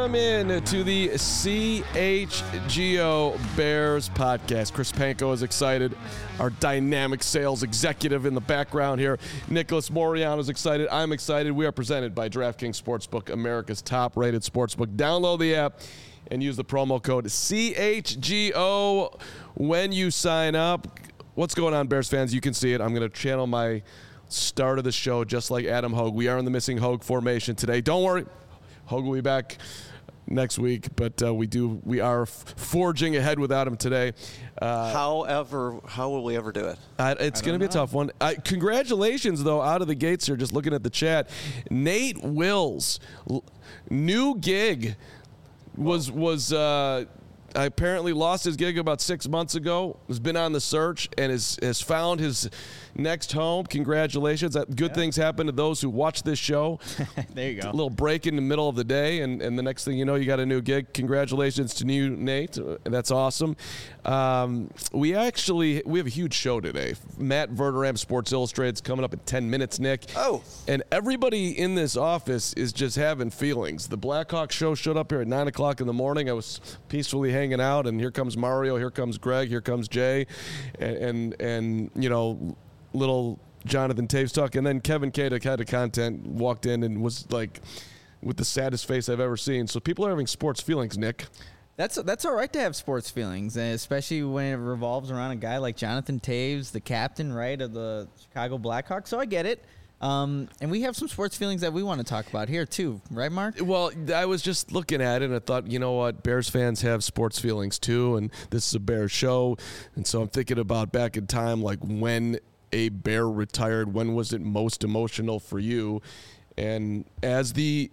Welcome in to the CHGO Bears podcast. Chris Panko is excited. Our dynamic sales executive in the background here. Nicholas Moriano is excited. I'm excited. We are presented by DraftKings Sportsbook, America's top-rated sportsbook. Download the app and use the promo code CHGO when you sign up. What's going on, Bears fans? You can see it. I'm going to channel my start of the show just like Adam Hogue. We are in the missing Hogue formation today. Don't worry. Hogue will be back next week, but we are forging ahead without him today. However, how will we ever do it? It's going to be a tough one. Congratulations, though, out of the gates here, just looking at the chat. Nate Wills, new gig, was apparently lost his gig about 6 months ago, has been on the search, and has found his next home. Congratulations. Good things happen to those who watch this show. There you go. A little break in the middle of the day, and the next thing you know, you got a new gig. Congratulations to you, Nate. That's awesome. We have a huge show today. Matt Verderame, Sports Illustrated, is coming up in 10 minutes, Nick. Oh. And everybody in this office is just having feelings. The Blackhawks show showed up here at 9 o'clock in the morning. I was peacefully hanging out, and here comes Mario, here comes Greg, here comes Jay, and you know, little Jonathan Taves talk, and then Kevin Kadek, head of content, walked in and was like with the saddest face I've ever seen. So people are having sports feelings, Nick. That's all right to have sports feelings, especially when it revolves around a guy like Jonathan Taves, the captain, right, of the Chicago Blackhawks. So I get it. And we have some sports feelings that we want to talk about here too, right, Mark? Well, I was just looking at it and I thought, you know what, Bears fans have sports feelings too, and this is a Bears show, and so I'm thinking about back in time, like when a Bear retired, when was it most emotional for you? And as the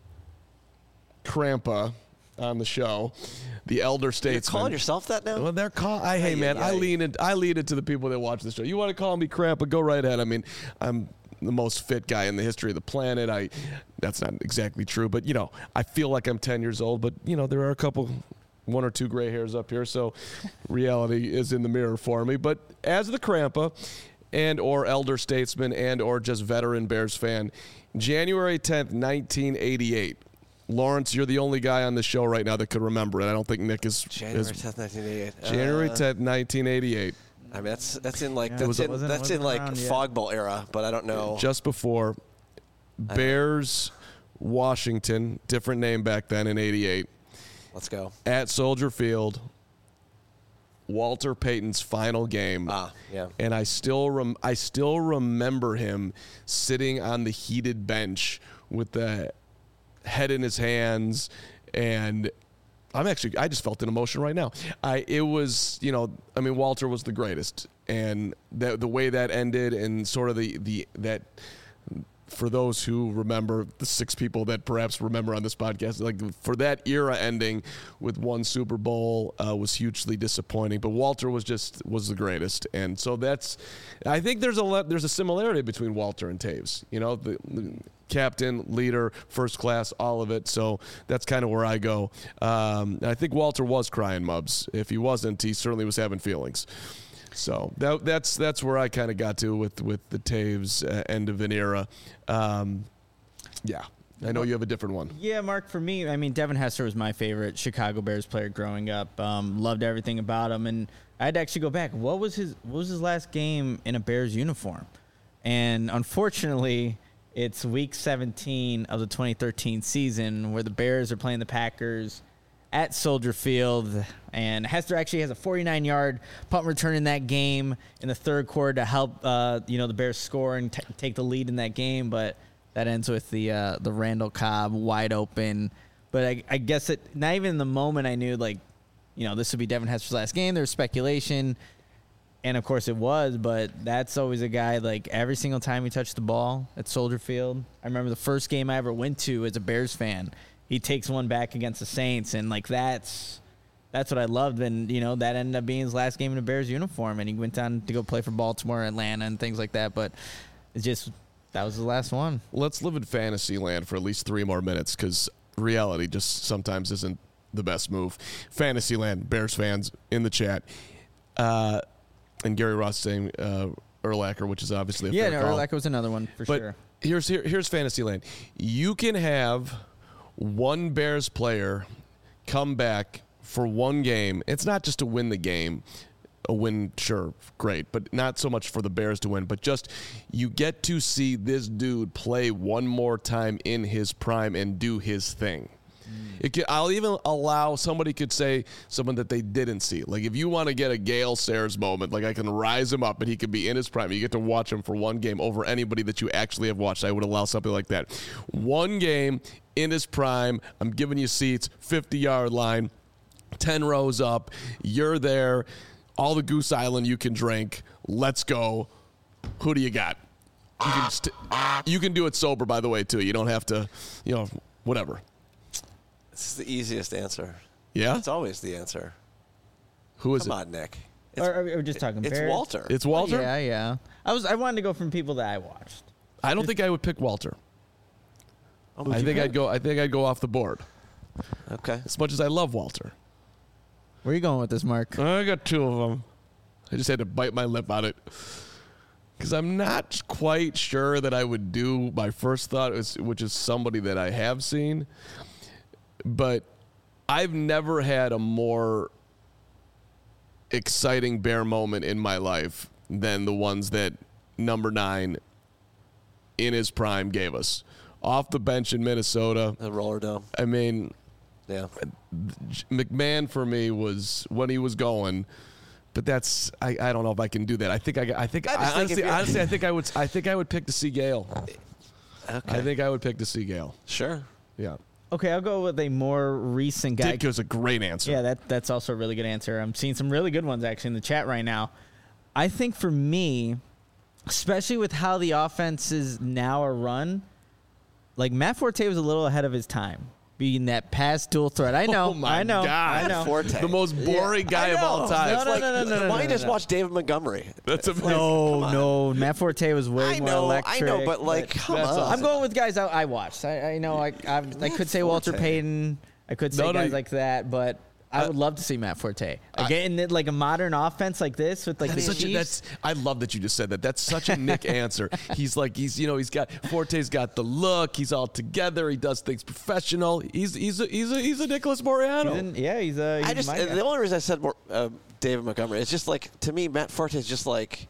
Crampa on the show, the elder statesman. You're calling yourself that now? Well, they're hey man, I lean it to the people that watch the show. You want to call me Crampa? Go right ahead. I mean, I'm the most fit guy in the history of the planet. That's not exactly true, but you know, I feel like I'm 10 years old, but you know, there are one or two gray hairs up here, so reality is in the mirror for me. But as the Crampa and or elder statesman and or just veteran Bears fan, January 10th, 1988. Lawrence, you're the only guy on the show right now that could remember it. I don't think Nick is. January 10th, 1988. January 10th, 1988. I mean, that's in like Fog Bowl era, but I don't know. Just before Bears, Washington, different name back then in '88. Let's go at Soldier Field. Walter Payton's final game. Yeah. And I still remember him sitting on the heated bench with the head in his hands, and I just felt an emotion right now. It was, you know, I mean, Walter was the greatest, and the way that ended, and sort of that. For those who remember, the 6 people that perhaps remember on this podcast, like for that era ending with one Super Bowl was hugely disappointing. But Walter was the greatest, and so I think there's a similarity between Walter and Taves. You know, the captain, leader, first class, all of it. So that's kind of where I go. I think Walter was crying mubs. If he wasn't, he certainly was having feelings. So that's where I kind of got to with the Taves end of an era. Yeah, I know you have a different one. Yeah, Mark, for me, I mean, Devin Hester was my favorite Chicago Bears player growing up. Loved everything about him, and I had to actually go back. What was his last game in a Bears uniform? And unfortunately, it's week 17 of the 2013 season where the Bears are playing the Packers at Soldier Field, and Hester actually has a 49-yard punt return in that game in the third quarter to help the Bears score and take the lead in that game, but that ends with the Randall Cobb wide open. But I guess not even in the moment I knew, like, you know, this would be Devin Hester's last game. There was speculation, and of course it was, but that's always a guy, like, every single time he touched the ball at Soldier Field. I remember the first game I ever went to as a Bears fan, he takes one back against the Saints, and like that's what I loved. And you know, that ended up being his last game in a Bears uniform, and he went on to go play for Baltimore, Atlanta, and things like that. But it's just that was the last one. Let's live in fantasy land for at least 3 more minutes, because reality just sometimes isn't the best move. Fantasy land, Bears fans in the chat, and Gary Ross saying Urlacher, which is obviously a fair call. Urlacher was another one for sure. Here's Fantasyland. You can have one Bears player come back for one game. It's not just to win the game. A win, sure, great, but not so much for the Bears to win, but just you get to see this dude play one more time in his prime and do his thing. I'll even allow somebody could say someone that they didn't see. Like if you want to get a Gale Sayers moment, like I can rise him up and he could be in his prime. You get to watch him for one game over anybody that you actually have watched. I would allow something like that. One game in his prime. I'm giving you seats, 50-yard line, 10 rows up. You're there. All the Goose Island you can drink. Let's go. Who do you got? You can do it sober, by the way, too. You don't have to, whatever. This is the easiest answer. Yeah? It's always the answer. Who is it? Come on, Nick. Are we just talking Bears? It's Walter. It's Walter? Oh, yeah. I wanted to go from people that I watched. I don't think I would pick Walter. I think I'd go off the board. Okay. As much as I love Walter. Where are you going with this, Mark? I got two of them. I just had to bite my lip on it. Because I'm not quite sure that I would do my first thought, which is somebody that I have seen. But I've never had a more exciting Bear moment in my life than the ones that number 9 in his prime gave us. Off the bench in Minnesota. The Roller Dome. I mean... Yeah, McMahon for me was when he was going, but that's I don't know if I can do that. I think honestly I think I would pick to see Gale. Okay. I think I would pick to see Gale. Sure. Yeah. Okay, I'll go with a more recent guy. Dick was a great answer. Yeah, that's also a really good answer. I'm seeing some really good ones actually in the chat right now. I think for me, especially with how the offenses now are run, like Matt Forte was a little ahead of his time. Being that pass dual threat. I know. Oh my I know. God. I know. Forte. The most boring guy of all time. No. Why don't you just watch David Montgomery? That's amazing. No. Matt Forte was way more electric. I know, but come on. awesome. I'm going with guys I watched. I know. I could say Walter Payton. I could say guys like that, but I would love to see Matt Forte again in like a modern offense like this with like the Chiefs. I love that you just said that. That's such a Nick answer. He's got Forte's got the look. He's all together. He does things professional. He's a Nicholas Moreano. He's the only reason I said David Montgomery is just like to me Matt Forte is just like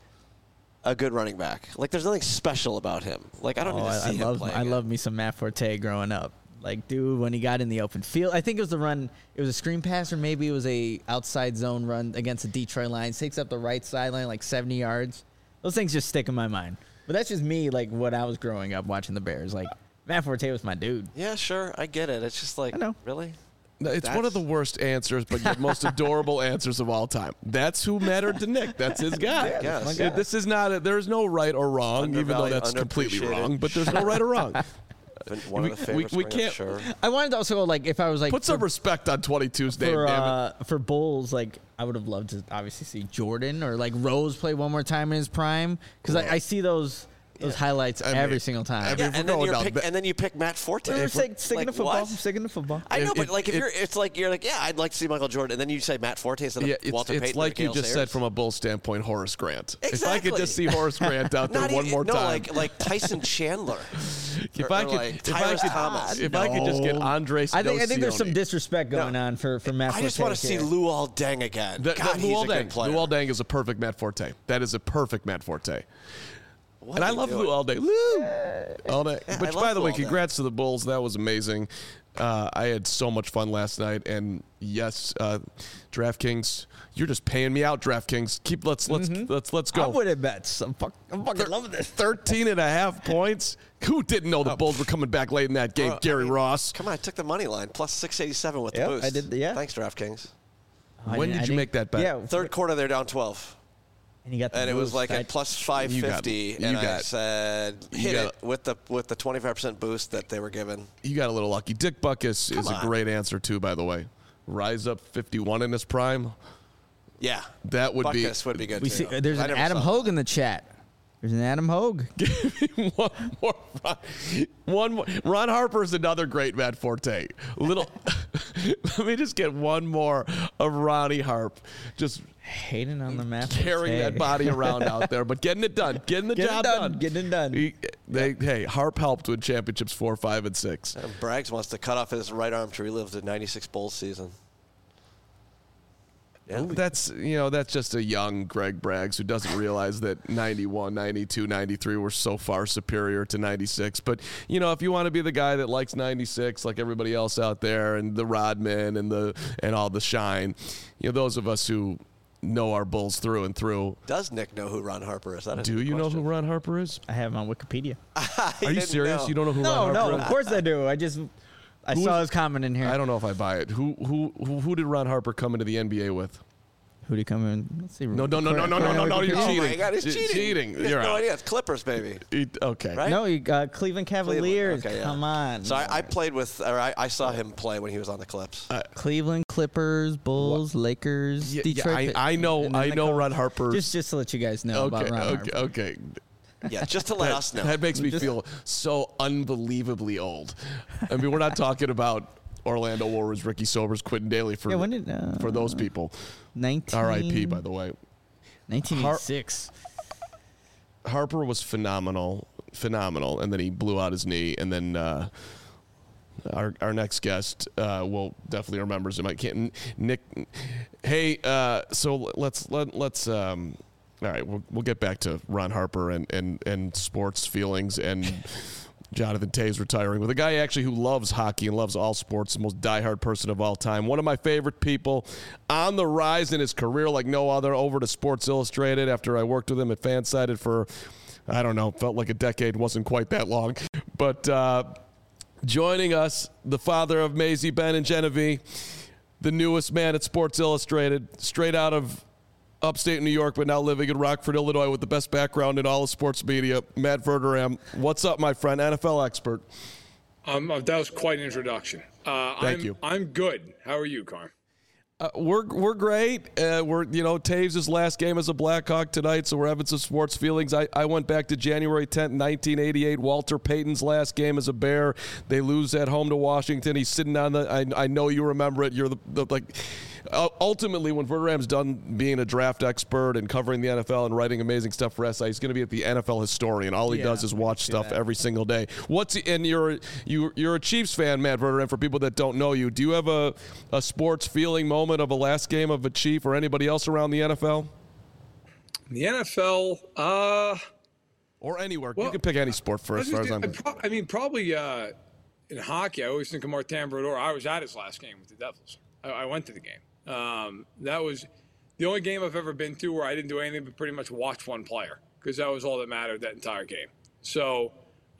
a good running back. Like there's nothing special about him. Like I don't need to see him playing. I love me some Matt Forte growing up. Like, dude, when he got in the open field, I think it was the run. It was a screen pass, or maybe it was a outside zone run against the Detroit Lions. Takes up the right sideline like 70 yards. Those things just stick in my mind. But that's just me, like what I was growing up watching the Bears. Like Matt Forte was my dude. Yeah, sure, I get it. It's just like, I know. Really. It's one of the worst answers, but the most adorable answers of all time. That's who mattered to Nick. That's his guy. Yes. This is not. There is no right or wrong, even though that's completely wrong. But there's no right or wrong. One of the favorites. We can't. Sure. I wanted to also go like if I was like put some respect on 22's name. For Bulls, like I would have loved to obviously see Jordan or like Rose play one more time in his prime because I see those highlights every single time. And then you pick Matt Forte. I'm sticking to football. I'm sticking to football. I know, but like if you're like, I'd like to see Michael Jordan, and then you say Matt Forte instead of Walter Payton. It's like you just said from a Bull standpoint, Horace Grant. Exactly. If I could just see Horace Grant out there one more time. No, like Tyson Chandler. If I could just get Andre Snowsione. I think there's some disrespect going on for Matt Forte. I just want to see Luol Deng again. God, he's a good player. Luol Deng is a perfect Matt Forte. That is a perfect Matt Forte. And I love Lou all day. All day. Which, by the way, congrats to the Bulls. That was amazing. I had so much fun last night. And yes, DraftKings, you're just paying me out, DraftKings. Let's go. I'm winning bets. I'm fucking loving this. 13.5 points. Who didn't know the Bulls were coming back late in that game? Gary Ross. Come on, I took the money line plus 687 with the boost. I did. Yeah. Thanks, DraftKings. When did you make that bet? Yeah, third quarter they're down 12. And, it was like at plus 550, and I said hit it with the 25% boost that they were given. You got a little lucky. Dick Butkus is a great answer too, by the way. Rise up 51 in his prime. Yeah, that would Butkus would be good. There's an Adam Hogue in the chat. There's an Adam Hogue. Give me one more. Ron Harper is another great Matt Forte. Let me just get one more of Ronnie Harp. Just hating on the map. Carrying that body around out there, but getting it done. Getting the job done. Getting it done. Hey, Harp helped win championships 4, 5, and 6. Braggs wants to cut off his right arm to relive the 96 Bulls season. Yeah. That's just a young Greg Braggs who doesn't realize that 91, 92, 93 were so far superior to 96. But, if you want to be the guy that likes 96 like everybody else out there and the Rodman and all the shine, those of us who know our Bulls through and through. Does Nick know who Ron Harper is? Do you know who Ron Harper is? I have him on Wikipedia. Are you serious? Know. You don't know who Ron Harper is? No, of course I do. I saw his comment in here. I don't know if I buy it. Who did Ron Harper come into the NBA with? Who did he come in? Let's see. No, you're cheating. Oh my God, he's cheating. You're no idea. It's Clippers, baby. Okay. Right? No, you got Cleveland Cavaliers. Okay, yeah. Come on. So I saw him play when he was on the Clips. Cleveland, Clippers, Bulls, Lakers, Detroit. I know Ron Harper. Just to let you guys know about Ron Harper. Okay. Yeah, just to let us know. That makes me feel so unbelievably old. I mean, we're not talking about Orlando Warriors, Ricky Sobers, Quentin Daly for those people. R.I.P. by the way. 1986. Harper was phenomenal, and then he blew out his knee, and then our next guest will definitely remembers him. I can't. Nick. Hey, so let's. All right, we'll get back to Ron Harper and sports feelings and Jonathan Toews retiring with a guy actually who loves hockey and loves all sports, the most diehard person of all time. One of my favorite people, on the rise in his career like no other, over to Sports Illustrated after I worked with him at Fansided for, I don't know, felt like a decade, wasn't quite that long. But joining us, the father of Maisie, Ben, and Genevieve, the newest man at Sports Illustrated, straight out of upstate New York, but now living in Rockford, Illinois, with the best background in all of sports media, Matt Verderame. What's up, my friend? NFL expert. That was quite an introduction. Thank you. I'm good. How are you, Carm? We're great. Toews' last game as a Blackhawk tonight, so we're having some sports feelings. I went back to January 10th, 1988, Walter Payton's last game as a Bear. They lose at home to Washington. He's sitting on I know you remember it. You're ultimately, when Verderame's done being a draft expert and covering the NFL and writing amazing stuff for SI, he's going to be at the NFL historian. All he does is watch stuff every single day. And you're a Chiefs fan, Matt Verderame. For people that don't know you, do you have a sports feeling moment of a last game of a Chief or anybody else around the NFL? The NFL, or anywhere. You can pick any sport for as far as I'm concerned. Probably in hockey, I always think of Martin Brodeur. I was at his last game with the Devils. I went to the game. That was the only game I've ever been to where I didn't do anything but pretty much watch one player, because that was all that mattered that entire game. So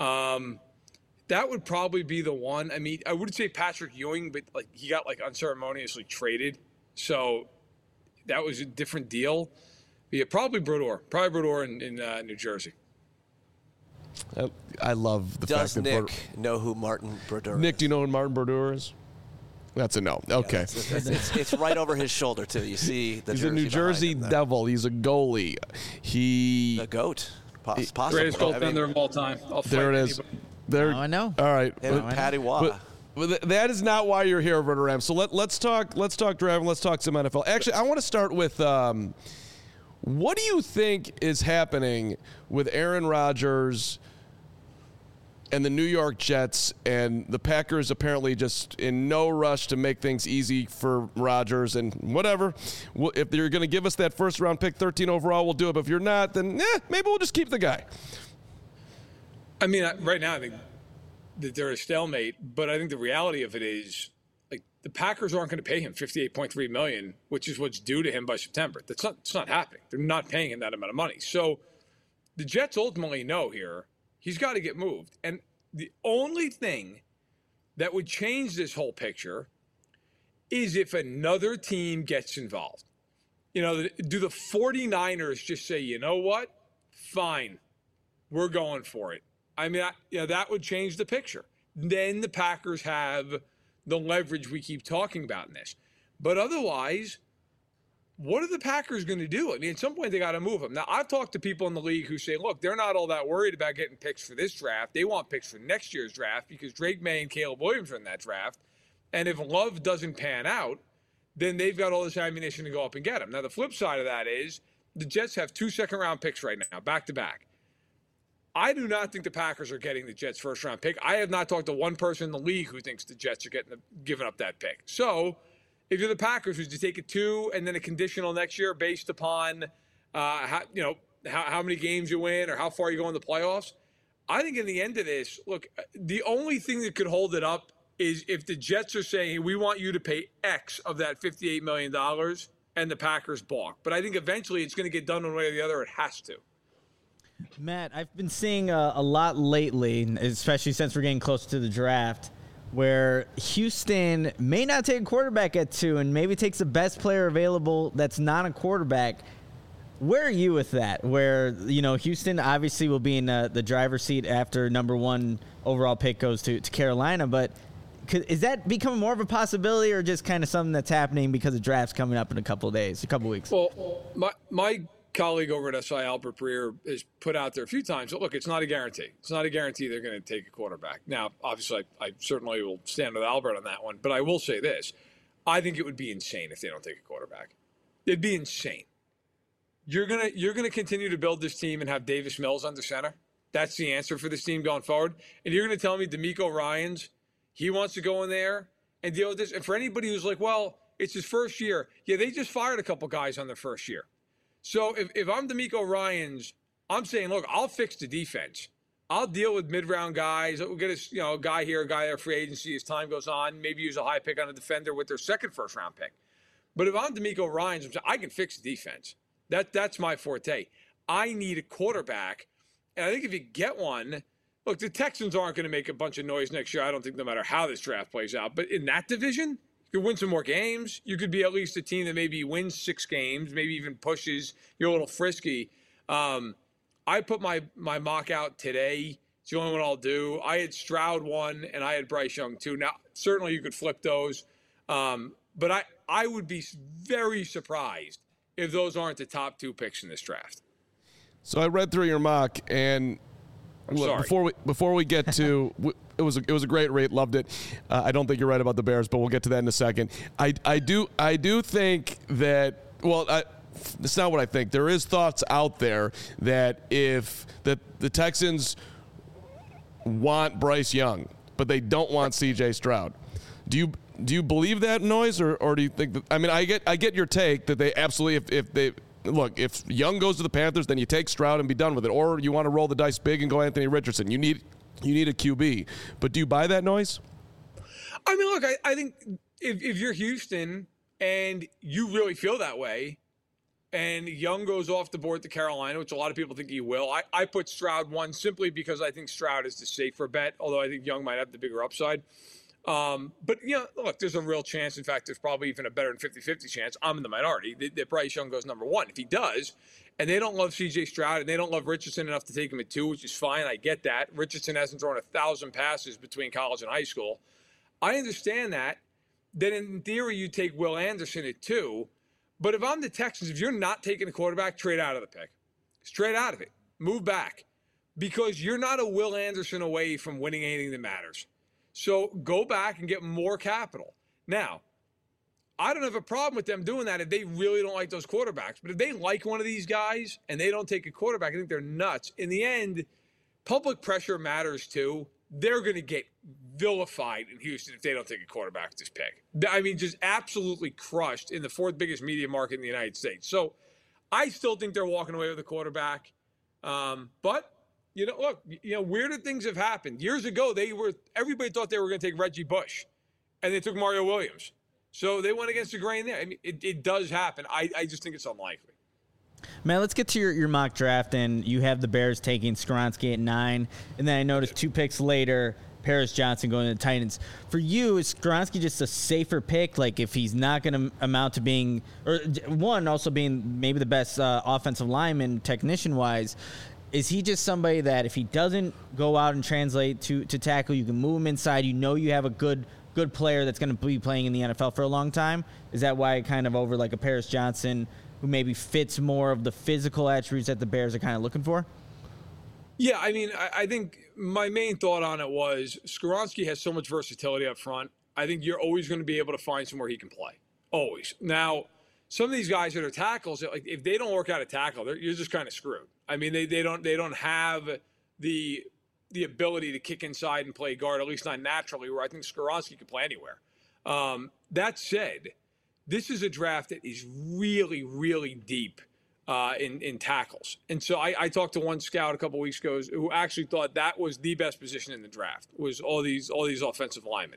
that would probably be the one. I mean, I wouldn't say Patrick Ewing, but he got unceremoniously traded. So that was a different deal. But yeah, probably Brodeur in New Jersey. I love the fact that Nick know who Martin Brodeur is? Nick, do you know who Martin Brodeur is? That's a no. Okay. Yeah, it's right over his shoulder, too. You see the He's a New Jersey Devil. He's a goalie. The GOAT. Possible. Greatest goaltender of all time. There it is. I know. All right. Patty Waugh. But that is not why you're here, Verderame. So let's talk draft. Let's talk some NFL. Actually, I want to start with what do you think is happening with Aaron Rodgers and the New York Jets, and the Packers apparently just in no rush to make things easy for Rodgers and whatever. If you're going to give us that first-round pick, 13 overall, we'll do it. But if you're not, then maybe we'll just keep the guy. I mean, right now I think that they're a stalemate, but I think the reality of it is the Packers aren't going to pay him $58.3 million, which is what's due to him by September. It's not happening. They're not paying him that amount of money. So the Jets ultimately know here he's got to get moved. And the only thing that would change this whole picture is if another team gets involved. Do the 49ers just say, you know what? Fine. We're going for it. I mean, that would change the picture. Then the Packers have the leverage we keep talking about in this. But otherwise, what are the Packers going to do? I mean, at some point they got to move him. Now, I've talked to people in the league who say, look, they're not all that worried about getting picks for this draft. They want picks for next year's draft because Drake May and Caleb Williams are in that draft. And if Love doesn't pan out, then they've got all this ammunition to go up and get him. Now, the flip side of that is the Jets have 2 second-round picks right now, back-to-back. I do not think the Packers are getting the Jets' first-round pick. I have not talked to one person in the league who thinks the Jets are giving up that pick. So if you're the Packers, would you take a 2 and then a conditional next year based upon how many games you win or how far you go in the playoffs? I think in the end of this, look, the only thing that could hold it up is if the Jets are saying, hey, we want you to pay X of that $58 million and the Packers balk. But I think eventually it's going to get done one way or the other. It has to. Matt, I've been seeing a lot lately, especially since we're getting closer to the draft, where Houston may not take a quarterback at 2 and maybe takes the best player available that's not a quarterback. Where are you with that? Where, Houston obviously will be in the driver's seat after number 1 overall pick goes to Carolina, but is that becoming more of a possibility or just kind of something that's happening because the draft's coming up in a couple weeks? Well, my colleague over at SI, Albert Breer, has put out there a few times, look, it's not a guarantee. It's not a guarantee they're going to take a quarterback. Now, obviously, I certainly will stand with Albert on that one, but I will say this. I think it would be insane if they don't take a quarterback. It'd be insane. You're gonna continue to build this team and have Davis Mills under center. That's the answer for this team going forward. And you're going to tell me DeMeco Ryans, he wants to go in there and deal with this. And for anybody who's like, well, it's his first year. Yeah, they just fired a couple guys on their first year. So if I'm DeMeco Ryans, I'm saying, look, I'll fix the defense. I'll deal with mid-round guys. We'll get a guy here, a guy there, free agency as time goes on. Maybe use a high pick on a defender with their second first-round pick. But if I'm DeMeco Ryans, I can fix the defense. That's my forte. I need a quarterback. And I think if you get one, look, the Texans aren't going to make a bunch of noise next year, I don't think, no matter how this draft plays out. But in that division, you could win some more games. You could be at least a team that maybe wins 6 games, maybe even pushes. You're a little frisky. I put my mock out today. It's the only one I'll do. I had Stroud 1, and I had Bryce Young 2. Now, certainly you could flip those. But I would be very surprised if those aren't the top 2 picks in this draft. So I read through your mock, and look, before we get to it was a great rate, loved it. I don't think you're right about the Bears, but we'll get to that in a second. I do think that it's not what I think. There is thoughts out there that if the Texans want Bryce Young, but they don't want C.J. Stroud. Do you believe that noise, or do you think that? I mean, I get your take that they absolutely if Young goes to the Panthers, then you take Stroud and be done with it, or you want to roll the dice big and go Anthony Richardson. You need a QB, but do you buy that noise? I mean, look, I think if you're Houston and you really feel that way, and Young goes off the board to Carolina, which a lot of people think he will, I put Stroud 1 simply because I think Stroud is the safer bet, although I think Young might have the bigger upside. But, look, there's a real chance. In fact, there's probably even a better than 50-50 chance. I'm in the minority that Bryce Young goes number 1. If he does, and they don't love C.J. Stroud and they don't love Richardson enough to take him at 2, which is fine. I get that. Richardson hasn't thrown 1,000 passes between college and high school. I understand that. Then in theory, you take Will Anderson at 2. But if I'm the Texans, if you're not taking a quarterback, trade out of the pick. Straight out of it. Move back. Because you're not a Will Anderson away from winning anything that matters. So go back and get more capital. Now, I don't have a problem with them doing that if they really don't like those quarterbacks. But if they like one of these guys and they don't take a quarterback, I think they're nuts. In the end, public pressure matters too. They're going to get vilified in Houston if they don't take a quarterback with this pick. I mean, just absolutely crushed in the 4th biggest media market in the United States. So I still think they're walking away with a quarterback. But look, weirder things have happened. Years ago, everybody thought they were going to take Reggie Bush, and they took Mario Williams. So they went against the grain there. I mean, it does happen. I just think it's unlikely. Man, let's get to your mock draft, and you have the Bears taking Skoronski at 9, and then I noticed 2 picks later, Paris Johnson going to the Titans. For you, is Skoronski just a safer pick? Like, if he's not going to amount to being, or one, also being maybe the best offensive lineman technician-wise, is he just somebody that if he doesn't go out and translate to tackle, you can move him inside, you have a good good player that's going to be playing in the NFL for a long time? Is that why kind of over like a Paris Johnson who maybe fits more of the physical attributes that the Bears are kind of looking for? Yeah, I mean, I think my main thought on it was Skoronski has so much versatility up front. I think you're always going to be able to find somewhere he can play. Always. Now, some of these guys that are tackles, like if they don't work out a tackle, you're just kind of screwed. I mean, they don't have the ability to kick inside and play guard, at least not naturally, where I think Skoronski can play anywhere. That said, this is a draft that is really, really deep in tackles. And so I talked to one scout a couple weeks ago who actually thought that was the best position in the draft, was all these offensive linemen.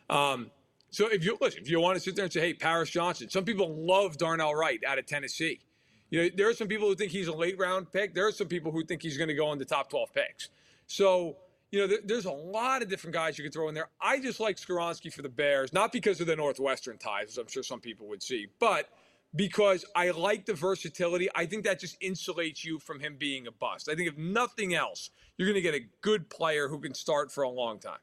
So if you want to sit there and say, hey, Paris Johnson, some people love Darnell Wright out of Tennessee. You know, there are some people who think he's a late round pick. There are some people who think he's going to go in the top 12 picks. So, you know, there's a lot of different guys you can throw in there. I just like Skoronski for the Bears, not because of the Northwestern ties, as I'm sure some people would see, but because I like the versatility. I think that just insulates you from him being a bust. I think if nothing else, you're going to get a good player who can start for a long time.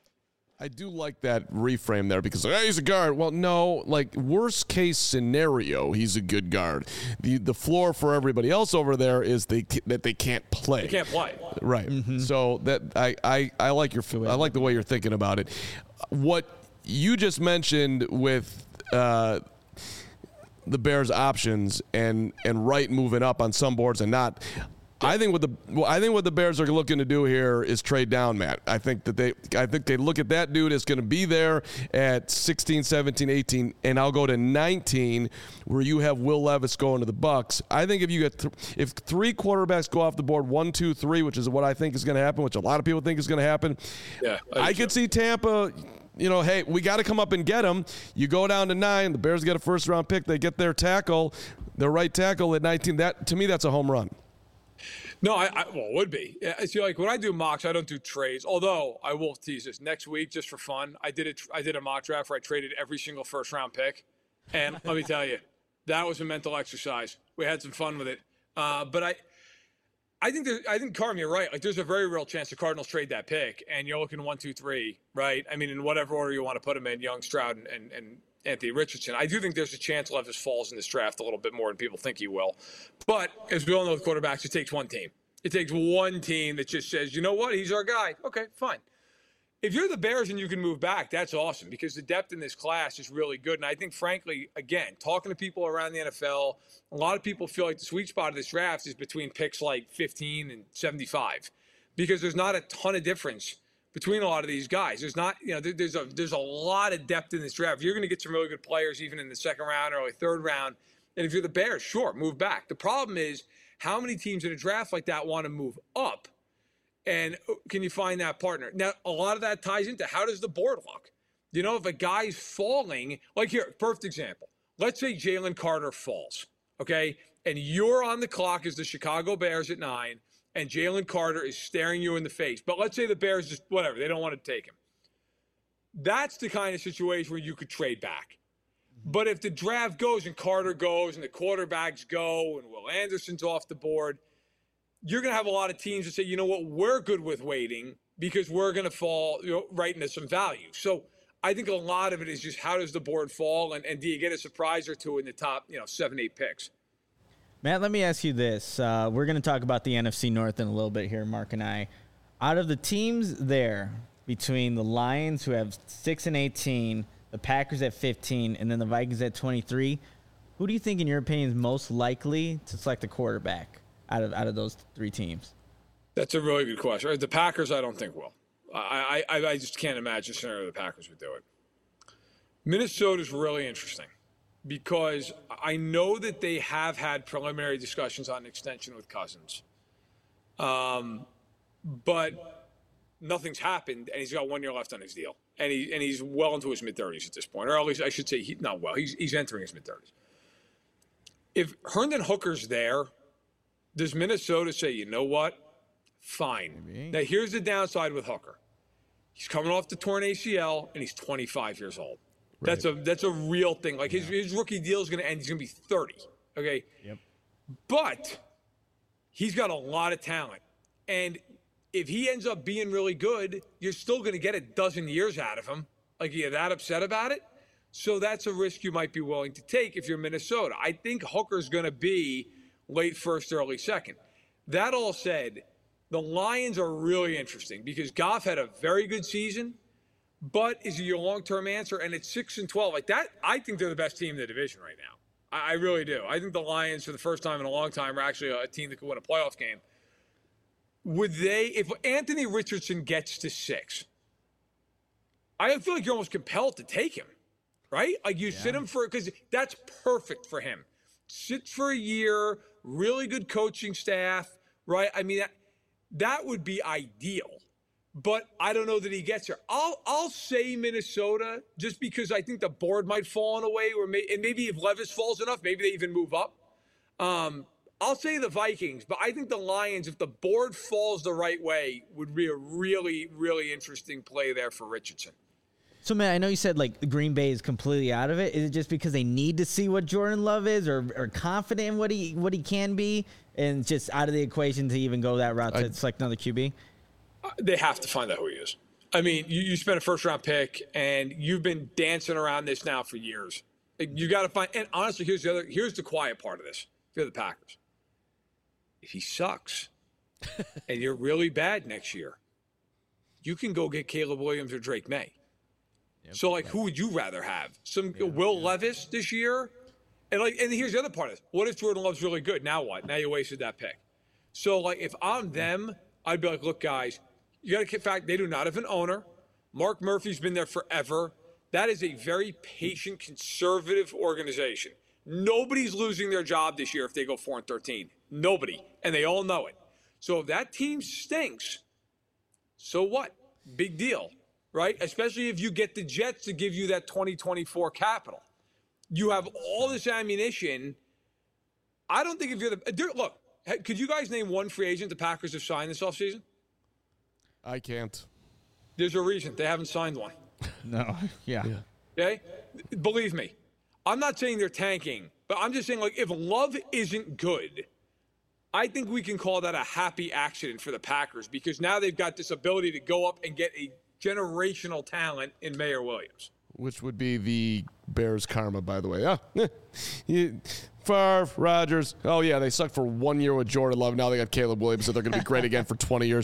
I do like that reframe there because he's a guard. Well, no, like worst case scenario, he's a good guard. The floor for everybody else over there is that they can't play. They can't play. Right. Mm-hmm. So that I like I like the way you're thinking about it. What you just mentioned with the Bears' options and Wright moving up on some boards and not. I think what the Bears are looking to do here is trade down, Matt. I think they look at that dude as going to be there at 16, 17, 18, and I'll go to 19 where you have Will Levis going to the Bucs. I think if you get if three quarterbacks go off the board, 1, 2, 3, which is what I think is going to happen, which a lot of people think is going to happen. Yeah, I could see Tampa. You know, hey, we got to come up and get him. You go down to 9. The Bears get a first-round pick. They get their right tackle at 19. That to me, that's a home run. No, well, it would be. See, like when I do mocks, I don't do trades. Although I will tease this next week just for fun. I did a mock draft where I traded every single first-round pick, and let me tell you, that was a mental exercise. We had some fun with it, but I think Carm, you're right. Like, there's a very real chance the Cardinals trade that pick, and you're looking 1, 2, 3, right? I mean, in whatever order you want to put them in, Young, Stroud, and Anthony Richardson. I do think there's a chance Levis falls in this draft a little bit more than people think he will. But as we all know with quarterbacks, it takes one team. It takes one team that just says, you know what, he's our guy. Okay, fine. If you're the Bears and you can move back, that's awesome because the depth in this class is really good. And I think, frankly, again, talking to people around the NFL, a lot of people feel like the sweet spot of this draft is between picks like 15 and 75 because there's not a ton of difference between a lot of these guys. There's not, you know, there's a lot of depth in this draft. You're going to get some really good players even in the second round, early third round. And if you're the Bears, sure, move back. The problem is how many teams in a draft like that want to move up, and can you find that partner? Now, a lot of that ties into how does the board look? You know, if a guy's falling, like here, perfect example. Let's say Jalen Carter falls, okay? And you're on the clock as the Chicago Bears at 9, and Jalen Carter is staring you in the face. But let's say the Bears just, whatever, they don't want to take him. That's the kind of situation where you could trade back. But if the draft goes and Carter goes and the quarterbacks go and Will Anderson's off the board, you're going to have a lot of teams that say, you know what, we're good with waiting because we're going to fall right into some value. So I think a lot of it is just how does the board fall and do you get a surprise or two in the top 7, 8 picks? Matt, let me ask you this. We're going to talk about the NFC North in a little bit here, Mark and I. Out of the teams there, between the Lions, who have 6 and 18, the Packers at 15, and then the Vikings at 23, who do you think, in your opinion, is most likely to select a quarterback out of those three teams? That's a really good question. The Packers, I don't think will. I just can't imagine a scenario the Packers would do it. Minnesota's really interesting because I know that they have had preliminary discussions on an extension with Cousins. But nothing's happened, and he's got 1 year left on his deal. And he's well into his mid-30s at this point. Or at least I should say he's entering his mid-30s. If Herndon Hooker's there, does Minnesota say, you know what? Fine. Maybe. Now, here's the downside with Hooker. He's coming off the torn ACL, and he's 25 years old. Right. That's a real thing. Like, his rookie deal is going to end. He's going to be 30, okay? Yep. But he's got a lot of talent. And if he ends up being really good, you're still going to get a dozen years out of him. Like, you're that upset about it? So that's a risk you might be willing to take if you're Minnesota. I think Hooker's going to be late first, early second. That all said, the Lions are really interesting because Goff had a very good season, but is he your long-term answer? And it's 6-12. Like that, I think they're the best team in the division right now. I really do. I think the Lions, for the first time in a long time, are actually a team that could win a playoff game. Would they, if Anthony Richardson gets to 6, I feel like you're almost compelled to take him, right? Like you sit him because that's perfect for him. Sit for a year, really good coaching staff, right? I mean, that would be ideal. But I don't know that he gets there. I'll say Minnesota just because I think the board might fall in a way, and maybe if Levis falls enough, maybe they even move up. I'll say the Vikings, but I think the Lions, if the board falls the right way, would be a really, really interesting play there for Richardson. So, man, I know you said, like, Green Bay is completely out of it. Is it just because they need to see what Jordan Love is or confident in what he can be and just out of the equation to even go that route to select another QB? They have to find out who he is. I mean, you spent a first-round pick, and you've been dancing around this now for years. You got to find – and honestly, here's the quiet part of this. If you're the Packers. If he sucks and you're really bad next year, you can go get Caleb Williams or Drake May. Yep. So, like, who would you rather have? Will Levis this year? And here's the other part of this. What if Jordan Love's really good? Now what? Now you wasted that pick. So, like, if I'm them, I'd be like, look, guys, you got to get fact they do not have an owner. Mark Murphy's been there forever. That is a very patient, conservative organization. Nobody's losing their job this year if they go 4-13. Nobody. And they all know it. So if that team stinks, so what? Big deal, right? Especially if you get the Jets to give you that 2024 capital. You have all this ammunition. I don't think if you're the – look, could you guys name one free agent the Packers have signed this offseason? I can't. There's a reason. They haven't signed one. No. Yeah. Okay? Believe me. I'm not saying they're tanking, but I'm just saying, like, if Love isn't good, I think we can call that a happy accident for the Packers because now they've got this ability to go up and get a generational talent in Mayer Williams. Which would be the Bears' karma, by the way. Favre, Rodgers. Oh, yeah, they sucked for 1 year with Jordan Love. Now they got Caleb Williams, so they're going to be great again for 20 years.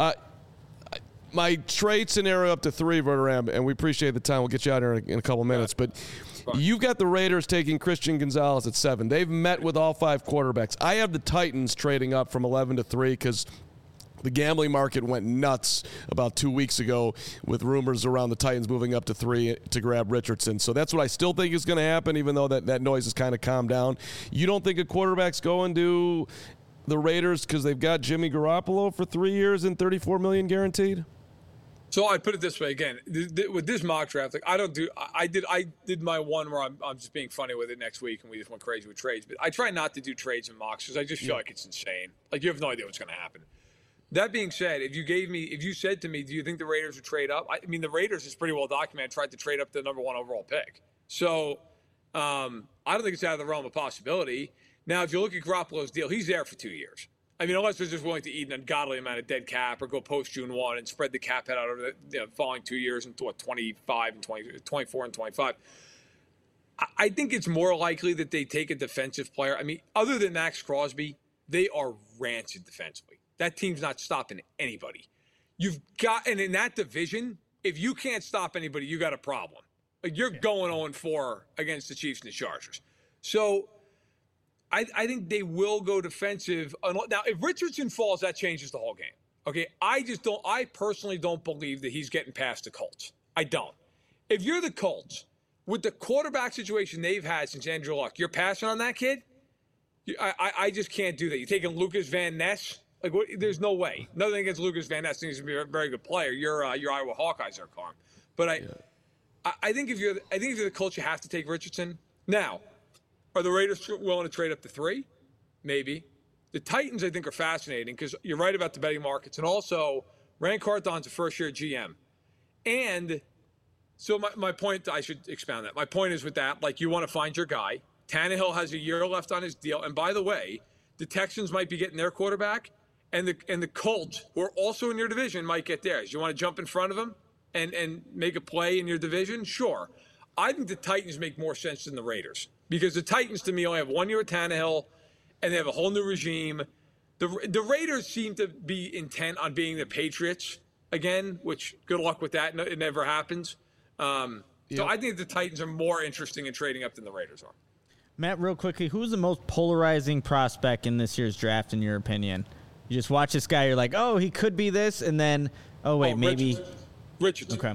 My trade scenario up to 3, Verderam, and we appreciate the time. We'll get you out here in a couple minutes. But you've got the Raiders taking Christian Gonzalez at 7. They've met with all 5 quarterbacks. I have the Titans trading up from 11 to 3 because the gambling market went nuts about 2 weeks ago with rumors around the Titans moving up to 3 to grab Richardson. So that's what I still think is going to happen, even though that noise has kind of calmed down. You don't think a quarterback's going to the Raiders because they've got Jimmy Garoppolo for 3 years and $34 million guaranteed? So I put it this way again with this mock draft. Like I did my one where I'm just being funny with it next week, and we just went crazy with trades. But I try not to do trades and mocks because I just feel like it's insane. Like you have no idea what's going to happen. That being said, if you said to me, do you think the Raiders would trade up? I mean, the Raiders is pretty well documented. Tried to trade up to the number 1 overall pick. So I don't think it's out of the realm of possibility. Now, if you look at Garoppolo's deal, he's there for 2 years. I mean, unless they're just willing to eat an ungodly amount of dead cap or go post June 1 and spread the cap head out over the following 2 years into 25 and 24 and 25. I think it's more likely that they take a defensive player. I mean, other than Max Crosby, they are rancid defensively. That team's not stopping anybody. And in that division, if you can't stop anybody, you got a problem. Like you're going 0-4 against the Chiefs and the Chargers. So I think they will go defensive. Now, if Richardson falls, that changes the whole game. Okay, I personally don't believe that he's getting past the Colts. I don't. If you're the Colts, with the quarterback situation they've had since Andrew Luck, you're passing on that kid? I just can't do that. You're taking Lucas Van Ness? Like, there's no way. Nothing against Lucas Van Ness. He's going to be a very good player. Your Iowa Hawkeyes are calm. But I think if you're the Colts, you have to take Richardson. Now, are the Raiders willing to trade up to 3? Maybe. The Titans, I think, are fascinating because you're right about the betting markets. And also, Rand Carthon's a first-year GM. And so my point, I should expound that. My point is with that, like, you want to find your guy. Tannehill has a year left on his deal. And by the way, the Texans might be getting their quarterback. And the Colts, who are also in your division, might get theirs. You want to jump in front of them? and make a play in your division, sure. I think the Titans make more sense than the Raiders because the Titans, to me, only have 1 year at Tannehill, and they have a whole new regime. The Raiders seem to be intent on being the Patriots again, which good luck with that. It never happens. So I think the Titans are more interesting in trading up than the Raiders are. Matt, real quickly, who's the most polarizing prospect in this year's draft, in your opinion? You just watch this guy, you're like, oh, he could be this, and then, maybe. Richardson. Okay.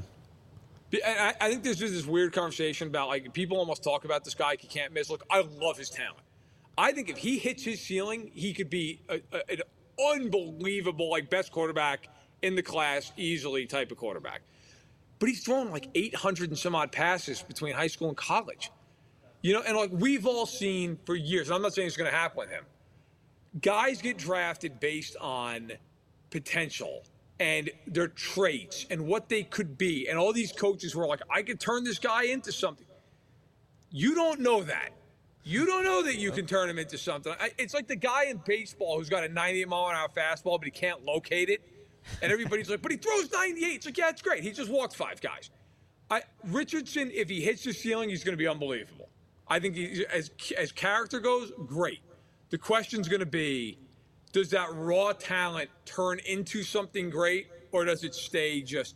I think there's just this weird conversation about, like, people almost talk about this guy, he can't miss. Look, I love his talent. I think if he hits his ceiling, he could be an unbelievable, like, best quarterback in the class, easily type of quarterback. But he's thrown like 800 and some odd passes between high school and college. You know, and like we've all seen for years, and I'm not saying it's going to happen with him, guys get drafted based on potential and their traits and what they could be. And all these coaches were like, I could turn this guy into something. You don't know that. You don't know that you can turn him into something. It's like the guy in baseball who's got a 98-mile-an-hour fastball, but he can't locate it. And everybody's like, but he throws 98. It's like, yeah, it's great. He just walked 5 guys. Richardson, if he hits the ceiling, he's going to be unbelievable. I think as character goes, great. The question's going to be, does that raw talent turn into something great, or does it stay just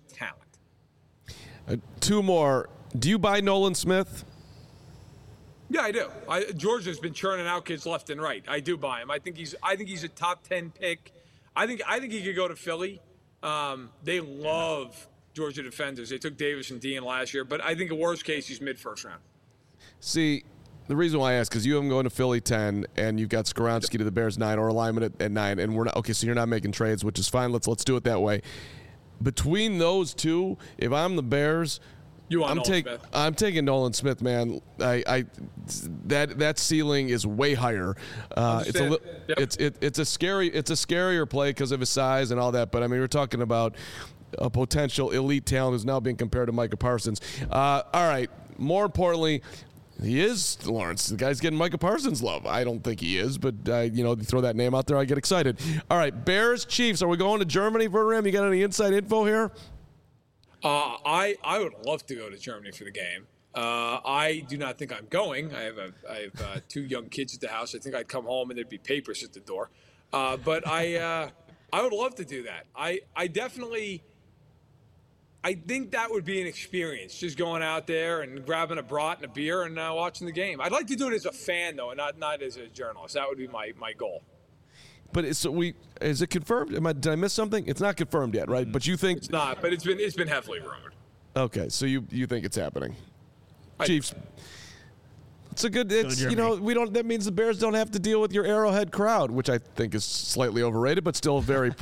talent? 2 more. Do you buy Nolan Smith? Yeah, I do. Georgia's been churning out kids left and right. I do buy him. I think he's a top 10 pick. I think he could go to Philly. They love Georgia defenders. They took Davis and Dean last year, but I think in worst case he's mid-first round. See, the reason why I ask is you have him going to Philly 10, and you've got Skoronski to the Bears 9, or alignment at 9, and we're not okay. So you're not making trades, which is fine. Let's do it that way. Between those two, if I'm the Bears, I'm taking Nolan Smith, man. That ceiling is way higher. It's a scarier play because of his size and all that. But I mean, we're talking about a potential elite talent who's now being compared to Micah Parsons. All right. More importantly, he is Lawrence. The guy's getting Micah Parsons love. I don't think he is, but you throw that name out there, I get excited. All right, Bears Chiefs. Are we going to Germany, Verram? You got any inside info here? I would love to go to Germany for the game. I do not think I'm going. I have 2 young kids at the house. I think I'd come home and there'd be papers at the door. But I would love to do that. I think that would be an experience, just going out there and grabbing a brat and a beer and watching the game. I'd like to do it as a fan, though, and not as a journalist. That would be my goal. But is it confirmed? Did I miss something? It's not confirmed yet, right? But you think it's not? But it's been heavily rumored. Okay, so you think it's happening? Chiefs. It's a good. It's we don't. That means the Bears don't have to deal with your Arrowhead crowd, which I think is slightly overrated, but still very.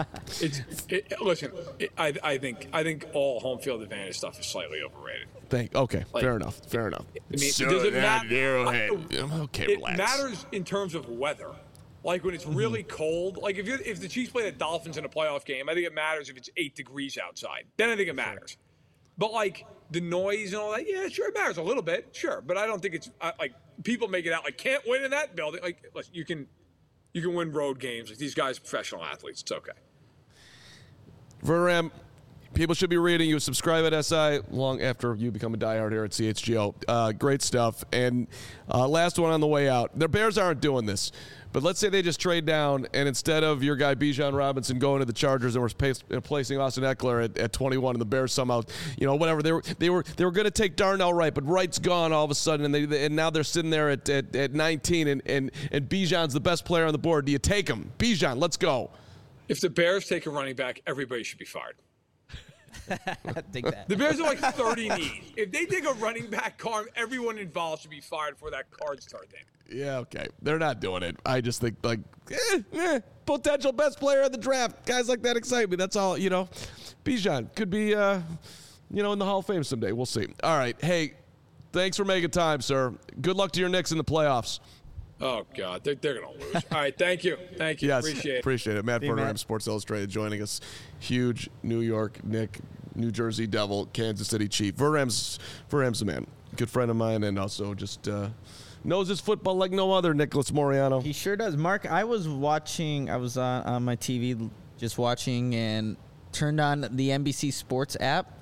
I think all home field advantage stuff is slightly overrated. Fair enough. I mean, does it matter? Okay, relax. It matters in terms of weather. Like when it's really cold, like if the Chiefs play the Dolphins in a playoff game, I think it matters if it's 8 degrees outside. Then I think it matters. But like the noise and all that, yeah, sure, it matters a little bit, sure. But I don't think it's like people make it out like can't win in that building. Like listen, you can win road games. Like these guys are professional athletes. It's okay. Verram, people should be reading you. Subscribe at SI long after you become a diehard here at CHGO. Great stuff. And last one on the way out. The Bears aren't doing this. But let's say they just trade down, and instead of your guy Bijan Robinson going to the Chargers and we're placing Austin Eckler at 21, and the Bears somehow, whatever they were going to take Darnell Wright, but Wright's gone all of a sudden, and now they're sitting there at 19, and Bijan's the best player on the board. Do you take him, Bijan? Let's go. If the Bears take a running back, everybody should be fired. I think that. The Bears are like 30 needs. If they take a running back, everyone involved should be fired for that card start game. Yeah, okay. They're not doing it. I just think, potential best player in the draft. Guys like that excite me. That's all, Bijan could be, in the Hall of Fame someday. We'll see. All right. Hey, thanks for making time, sir. Good luck to your Knicks in the playoffs. Oh, God. They're going to lose. All right. Thank you. Yes, appreciate it. Matt Verram, Sports Illustrated, joining us. Huge New York Knick, New Jersey Devil, Kansas City Chief. Verram's a man. Good friend of mine, and also just knows his football like no other, Nicholas Moriano. He sure does. Mark, I was on my TV just watching and turned on the NBC Sports app.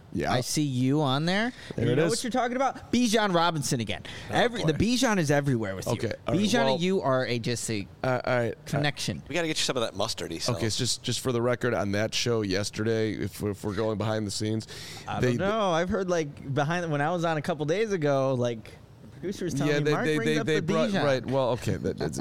Yeah. I see you on there. There you it know is. what you're talking about? Bijan Robinson again. The Bijan is everywhere with Okay, you. all right, Bijan well, and you are just a all right. connection. We got to get you some of that mustard he sells. Okay, it's just for the record, on that show yesterday, if we're going behind the scenes, I don't know. I've heard when I was on a couple days ago, the producers telling me Mark brings up the brought Bijan. right. Well, okay,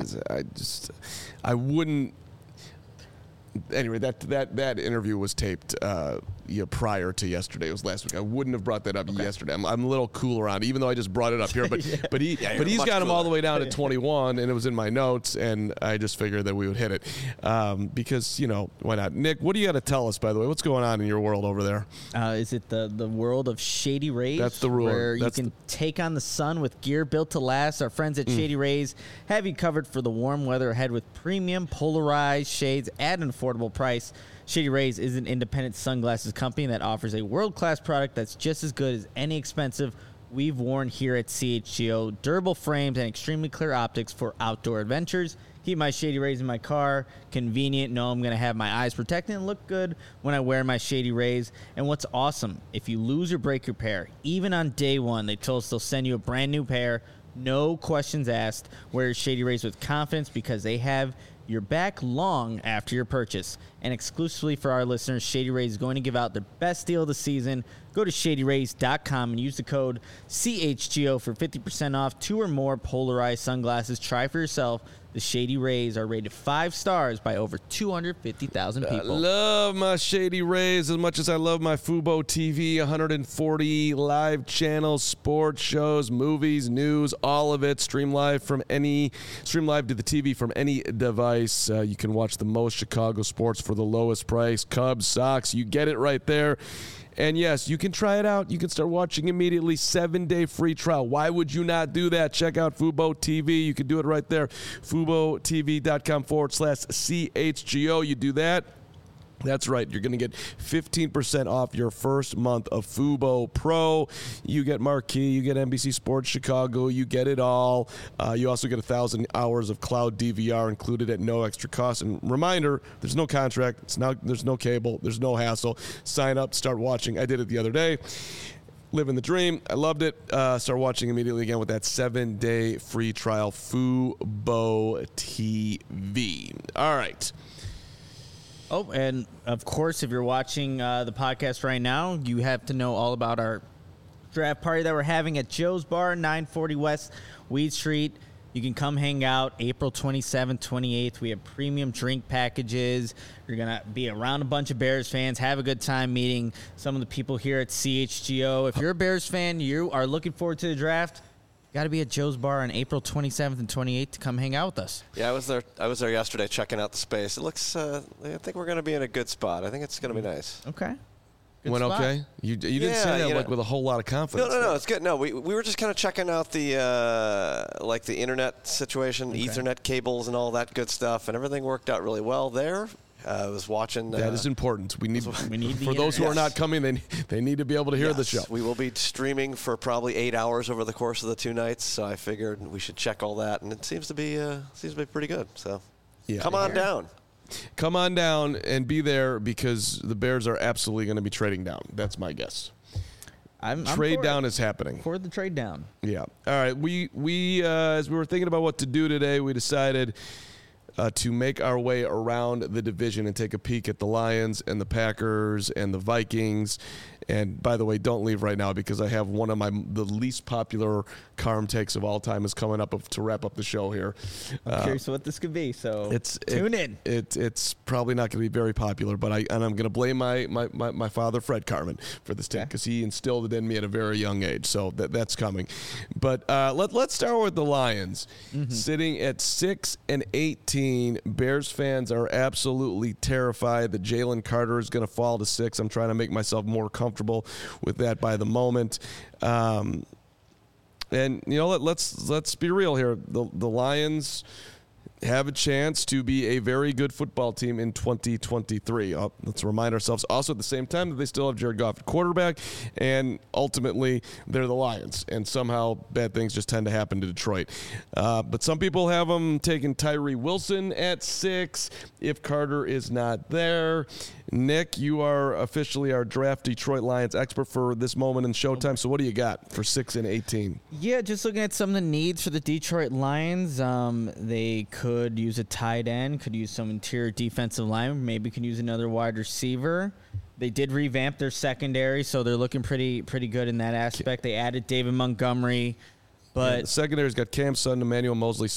I wouldn't. Anyway, that interview was taped prior to yesterday. It was last week. I wouldn't have brought that up yesterday. I'm a little cooler on it, even though I just brought it up here. But he's got him all the way down to 21, and it was in my notes, and I just figured that we would hit it because why not? Nick, what do you got to tell us? By the way, what's going on in your world over there? Is it the world of Shady Rays? That's the rule. Where you can take on the sun with gear built to last. Our friends at Shady Rays have you covered for the warm weather ahead with premium polarized shades at an affordable price. Shady Rays is an independent sunglasses company that offers a world-class product that's just as good as any expensive we've worn here at CHGO. Durable frames and extremely clear optics for outdoor adventures. Keep my Shady Rays in my car. Convenient. Know I'm going to have my eyes protected and look good when I wear my Shady Rays. And what's awesome, if you lose or break your pair, even on day one, they told us they'll send you a brand new pair. No questions asked. Wear Shady Rays with confidence because they have your back long after your purchase. And exclusively for our listeners, Shady Rays is going to give out their best deal of the season. Go to ShadyRays.com and use the code CHGO for 50% off 2 or more polarized sunglasses. Try for yourself. The Shady Rays are rated 5 stars by over 250,000 people. I love my Shady Rays as much as I love my Fubo TV. 140 live channels, sports shows, movies, news, all of it. Stream live to the TV from any device. You can watch the most Chicago sports for the lowest price. Cubs, Sox, you get it right there. And yes, you can try it out. You can start watching immediately. 7-day free trial. Why would you not do that? Check out Fubo TV. You can do it right there. FuboTV.com/CHGO. You do that. That's right. You're going to get 15% off your first month of Fubo Pro. You get Marquee. You get NBC Sports Chicago. You get it all. You also get 1,000 hours of cloud DVR included at no extra cost. And reminder, there's no contract. There's no cable. There's no hassle. Sign up. Start watching. I did it the other day. Living the dream. I loved it. Start watching immediately again with that 7-day free trial. Fubo TV. All right. Oh, and of course, if you're watching the podcast right now, you have to know all about our draft party that we're having at Joe's Bar, 940 West Weed Street. You can come hang out April 27th, 28th. We have premium drink packages. You're going to be around a bunch of Bears fans, have a good time meeting some of the people here at CHGO. If you're a Bears fan, you are looking forward to the draft, got to be at Joe's Bar on April 27th and 28th to come hang out with us. Yeah, I was there yesterday checking out the space. It looks, I think we're going to be in a good spot. I think it's going to be nice. Okay. Good Went spot. okay? You didn't say that with a whole lot of confidence. No, it's good. No, we were just kind of checking out the the internet situation, Ethernet cables and all that good stuff, and everything worked out really well there. I was watching. That is important. We need for those who internet. are not coming, they need to be able to hear the show. We will be streaming for probably 8 hours over the course of the 2 nights, so I figured we should check all that, and it seems to be pretty good. So come on down. Come on down and be there because the Bears are absolutely going to be trading down. That's my guess. Trade down is happening. For the trade down. Yeah. All right. We as we were thinking about what to do today, we decided to make our way around the division and take a peek at the Lions and the Packers and the Vikings. And by the way, don't leave right now because I have one of the least popular Carm takes of all time is coming up to wrap up the show here. I'm curious what this could be, so tune in. It's probably not going to be very popular, but I'm going to blame my father, Fred Carman, for this take because he instilled it in me at a very young age. So that's coming. But let's start with the Lions. Sitting at 6-18, Bears fans are absolutely terrified that Jalen Carter is going to fall to 6. I'm trying to make myself more comfortable with that by the moment. And let's be real here. The Lions have a chance to be a very good football team in 2023. Let's remind ourselves also at the same time that they still have Jared Goff at quarterback, and ultimately they're the Lions, and somehow bad things just tend to happen to Detroit. But some people have them taking Tyree Wilson at 6 if Carter is not there. Nick, you are officially our draft Detroit Lions expert for this moment in Showtime. So what do you got for 6 and 18? Yeah, just looking at some of the needs for the Detroit Lions. They could use a tight end, could use some interior defensive lineman, maybe can use another wide receiver. They did revamp their secondary, so they're looking pretty good in that aspect. They added David Montgomery. But the secondary's got Cam Sutton, Emmanuel Mosley,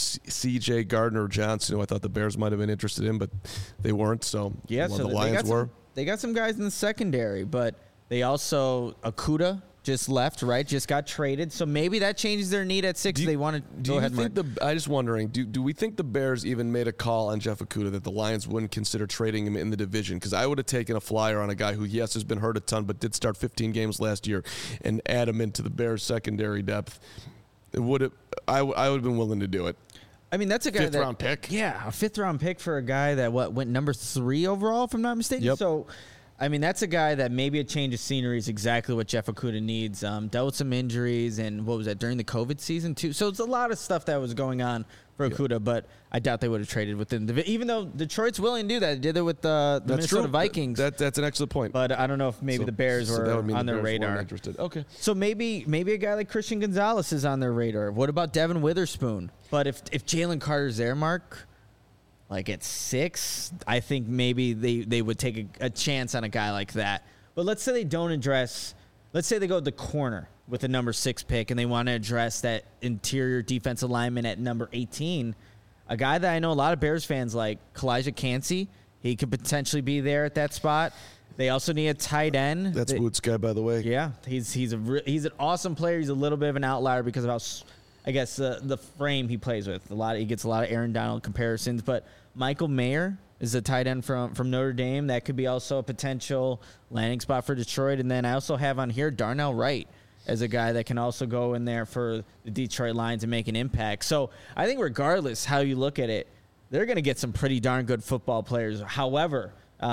C.J. Gardner-Johnson, who I thought the Bears might have been interested in, but they weren't. So yeah, the Lions were. They got some guys in the secondary, but they also Okudah just left, right? Just got traded, so maybe that changes their need at 6. They want to go ahead. I just wondering, do we think the Bears even made a call on Jeff Okudah that the Lions wouldn't consider trading him in the division? Because I would have taken a flyer on a guy who, yes, has been hurt a ton, but did start 15 games last year, and add him into the Bears secondary depth. I would have been willing to do it. I mean, that's a guy 5th round pick. Yeah, a 5th round pick for a guy that went number 3 overall, if I'm not mistaken. Yep. So, I mean, that's a guy that maybe a change of scenery is exactly what Jeff Okudah needs. Dealt with some injuries, and what was that, during the COVID season too? So it's a lot of stuff that was going on for Okudah, but I doubt they would have traded with him. Even though Detroit's willing to do that. They did it with the Minnesota Vikings. That's an excellent point. But I don't know if maybe the Bears were on their radar. Interested. Okay. So maybe a guy like Christian Gonzalez is on their radar. What about Devin Witherspoon? But if Jalen Carter's there, Mark, like at 6, I think maybe they would take a chance on a guy like that. But let's say they don't address – let's say they go to the corner with the number 6 pick and they want to address that interior defensive lineman at number 18. A guy that I know a lot of Bears fans like, Kalijah Kancey, he could potentially be there at that spot. They also need a tight end. That's Woods guy, by the way. Yeah, he's an awesome player. He's a little bit of an outlier because of how – I guess the frame he plays with. He gets a lot of Aaron Donald comparisons, but Michael Mayer is a tight end from Notre Dame. That could be also a potential landing spot for Detroit. And then I also have on here Darnell Wright as a guy that can also go in there for the Detroit Lions and make an impact. So I think regardless how you look at it, they're going to get some pretty darn good football players. However,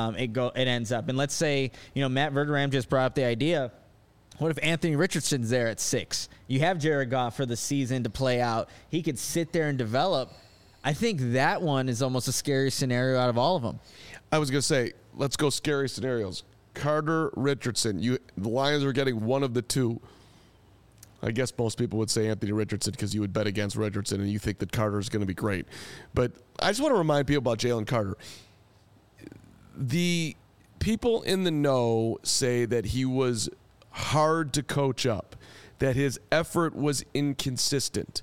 it ends up. And let's say, Matt Verderame just brought up the idea. What if Anthony Richardson's there at 6? You have Jared Goff for the season to play out. He could sit there and develop. I think that one is almost a scary scenario out of all of them. I was going to say, let's go scary scenarios. Carter, Richardson. The Lions are getting one of the two. I guess most people would say Anthony Richardson because you would bet against Richardson and you think that Carter is going to be great. But I just want to remind people about Jalen Carter. The people in the know say that he was hard to coach up, that his effort was inconsistent.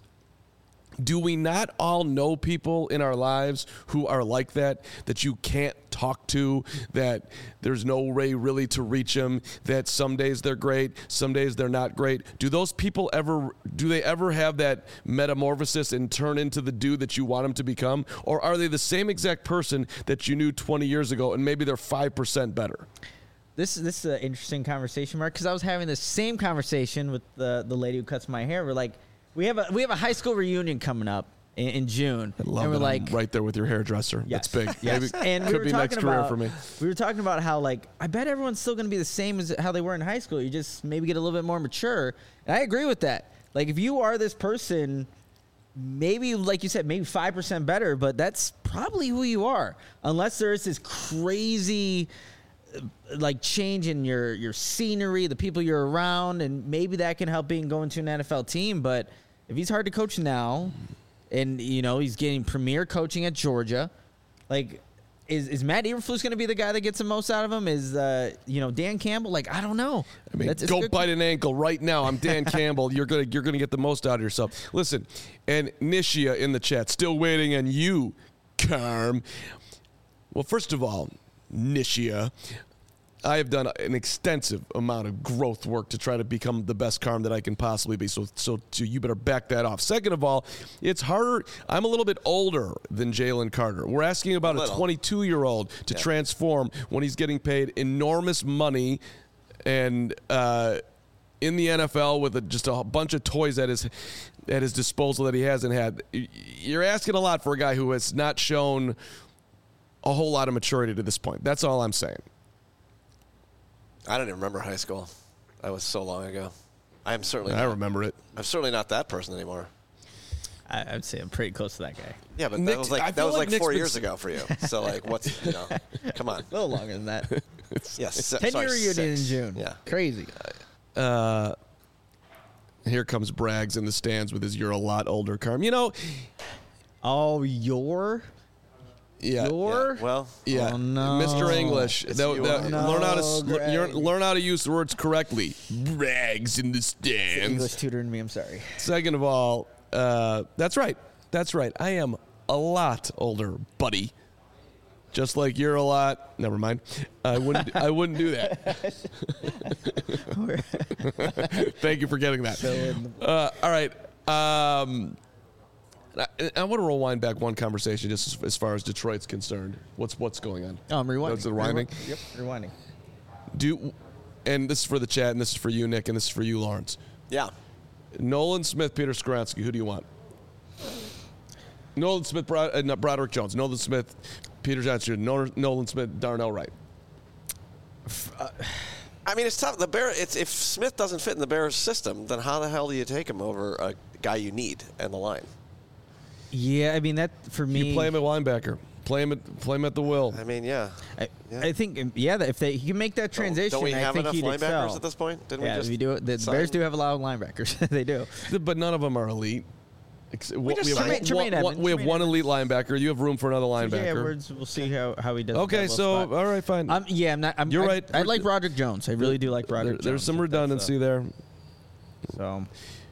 Do we not all know people in our lives who are like that you can't talk to, that there's no way really to reach them, that some days they're great, some days they're not great? Do those people ever have that metamorphosis and turn into the dude that you want them to become? Or are they the same exact person that you knew 20 years ago and maybe they're 5% better? This is an interesting conversation, Mark, because I was having the same conversation with the lady who cuts my hair. We're like, we have a high school reunion coming up in June. I love and we're that like, I'm right there with your hairdresser. Yes, that's big. Yes. Maybe and could be next career for me. We were talking about how, like, I bet everyone's still going to be the same as how they were in high school. You just maybe get a little bit more mature. And I agree with that. Like, if you are this person, maybe, like you said, maybe 5% better, but that's probably who you are. Unless there's this crazy like change in your scenery, the people you're around, and maybe that can help being going to an NFL team. But if he's hard to coach now, and he's getting premier coaching at Georgia, like is Matt Eberflus going to be the guy that gets the most out of him? Is Dan Campbell? Like, I don't know. I mean, go bite an ankle right now. I'm Dan Campbell. You're gonna get the most out of yourself. Listen, and Nishia in the chat, still waiting on you, Carm. Well, first of all, Nishia, I have done an extensive amount of growth work to try to become the best Carm that I can possibly be. So you better back that off. Second of all, it's harder. I'm a little bit older than Jalen Carter. We're asking about a 22-year-old to transform when he's getting paid enormous money and in the NFL with just a bunch of toys at his disposal that he hasn't had. You're asking a lot for a guy who has not shown a whole lot of maturity to this point. That's all I'm saying. I don't even remember high school. That was so long ago. I remember it. I'm certainly not that person anymore. I'd say I'm pretty close to that guy. Yeah, but Nick, that was like Nick's 4 been years ago for you. So like, come on. A little longer than that. Yes, 10-year reunion in 6. June. Yeah, Crazy. Here comes Braggs in the stands with his "You're a lot older" Carm. You know, Oh, your? yeah. Well, Yeah, Oh, no. Mr. English. It's you. Learn how to use the words correctly. Braggs in the English stands. tutoring me. I'm sorry. Second of all, that's right. That's right. I am a lot older, buddy. Just like you're a lot. Never mind. I wouldn't do that. Thank you for getting that. All right. I want to rewind back one conversation just as far as Detroit's concerned. What's going on? Oh, I'm rewinding. That's the rewinding? Yep, rewinding. And this is for the chat, and this is for you, Nick, and this is for you, Lawrence. yeah. Nolan Smith, Peter Skoronski. Who do you want? Nolan Smith, Broderick Jones. Nolan Smith, Peter Johnson. Nolan Smith, Darnell Wright. I mean, it's tough. If Smith doesn't fit in the Bears system, then how the hell do you take him over a guy you need in the line? Yeah, I mean, that for me. You play him at linebacker. Play him at the will. I mean, yeah. I think, that if he can make that transition, don't we have I think enough he'd linebackers excel. at this point? Didn't Yeah, we just we do. The sign? Bears do have a lot of linebackers. They do. But none of them are elite. We have Tremaine Edmonds. one elite linebacker. You have room for another Yeah, linebacker. we'll see how he does. Okay, so all right, fine. You're right. I like Broderick Jones. I really do like Broderick Jones. There's some redundancy there. So,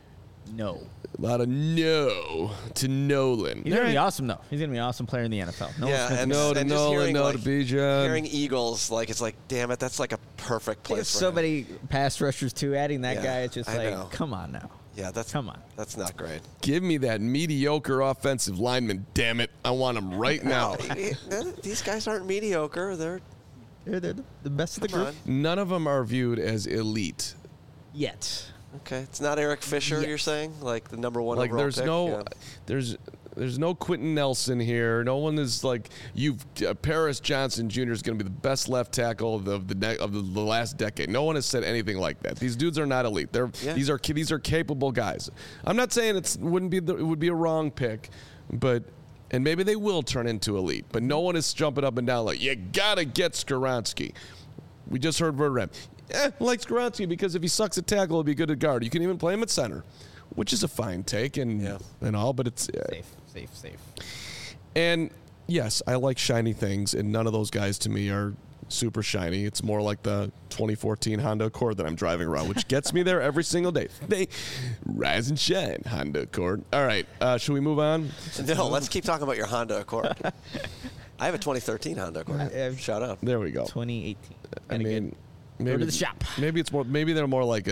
no. A lot of no to Nolan. He's gonna be awesome though. He's gonna be an awesome player in the NFL. No to Nolan, no to Bijan. Hearing Eagles, it's like, damn it, that's like a perfect place for so him. many pass rushers too. Adding that guy, it's just I know. come on now. Yeah, come on. That's not great. Give me that mediocre offensive lineman, damn it. I want him right now. These guys aren't mediocre. They're the best of the Come group. on. None of them are viewed as elite. Yet. Okay, it's not Eric Fisher. You're saying, like the number one Like overall there's pick? there's no Quentin Nelson here. No one is like Paris Johnson Jr. is going to be the best left tackle of the last decade. No one has said anything like that. These dudes are not elite. These are capable guys. I'm not saying it would be a wrong pick, but and maybe they will turn into elite. But no one is jumping up and down like you gotta get Skoronski. We just heard Verderame. I like Skoronski because if he sucks at tackle, he'll be good at guard. You can even play him at center, which is a fine take and all, but it's safe. And yes, I like shiny things, and none of those guys to me are super shiny. It's more like the 2014 Honda Accord that I'm driving around, which gets me there every single day. They rise and shine, Honda Accord. All right, should we move on? No, let's keep talking about your Honda Accord. I have a 2013 Honda Accord. Shout out. There we go. 2018. I mean, maybe go to the shop. Maybe it's more. Maybe they're more like a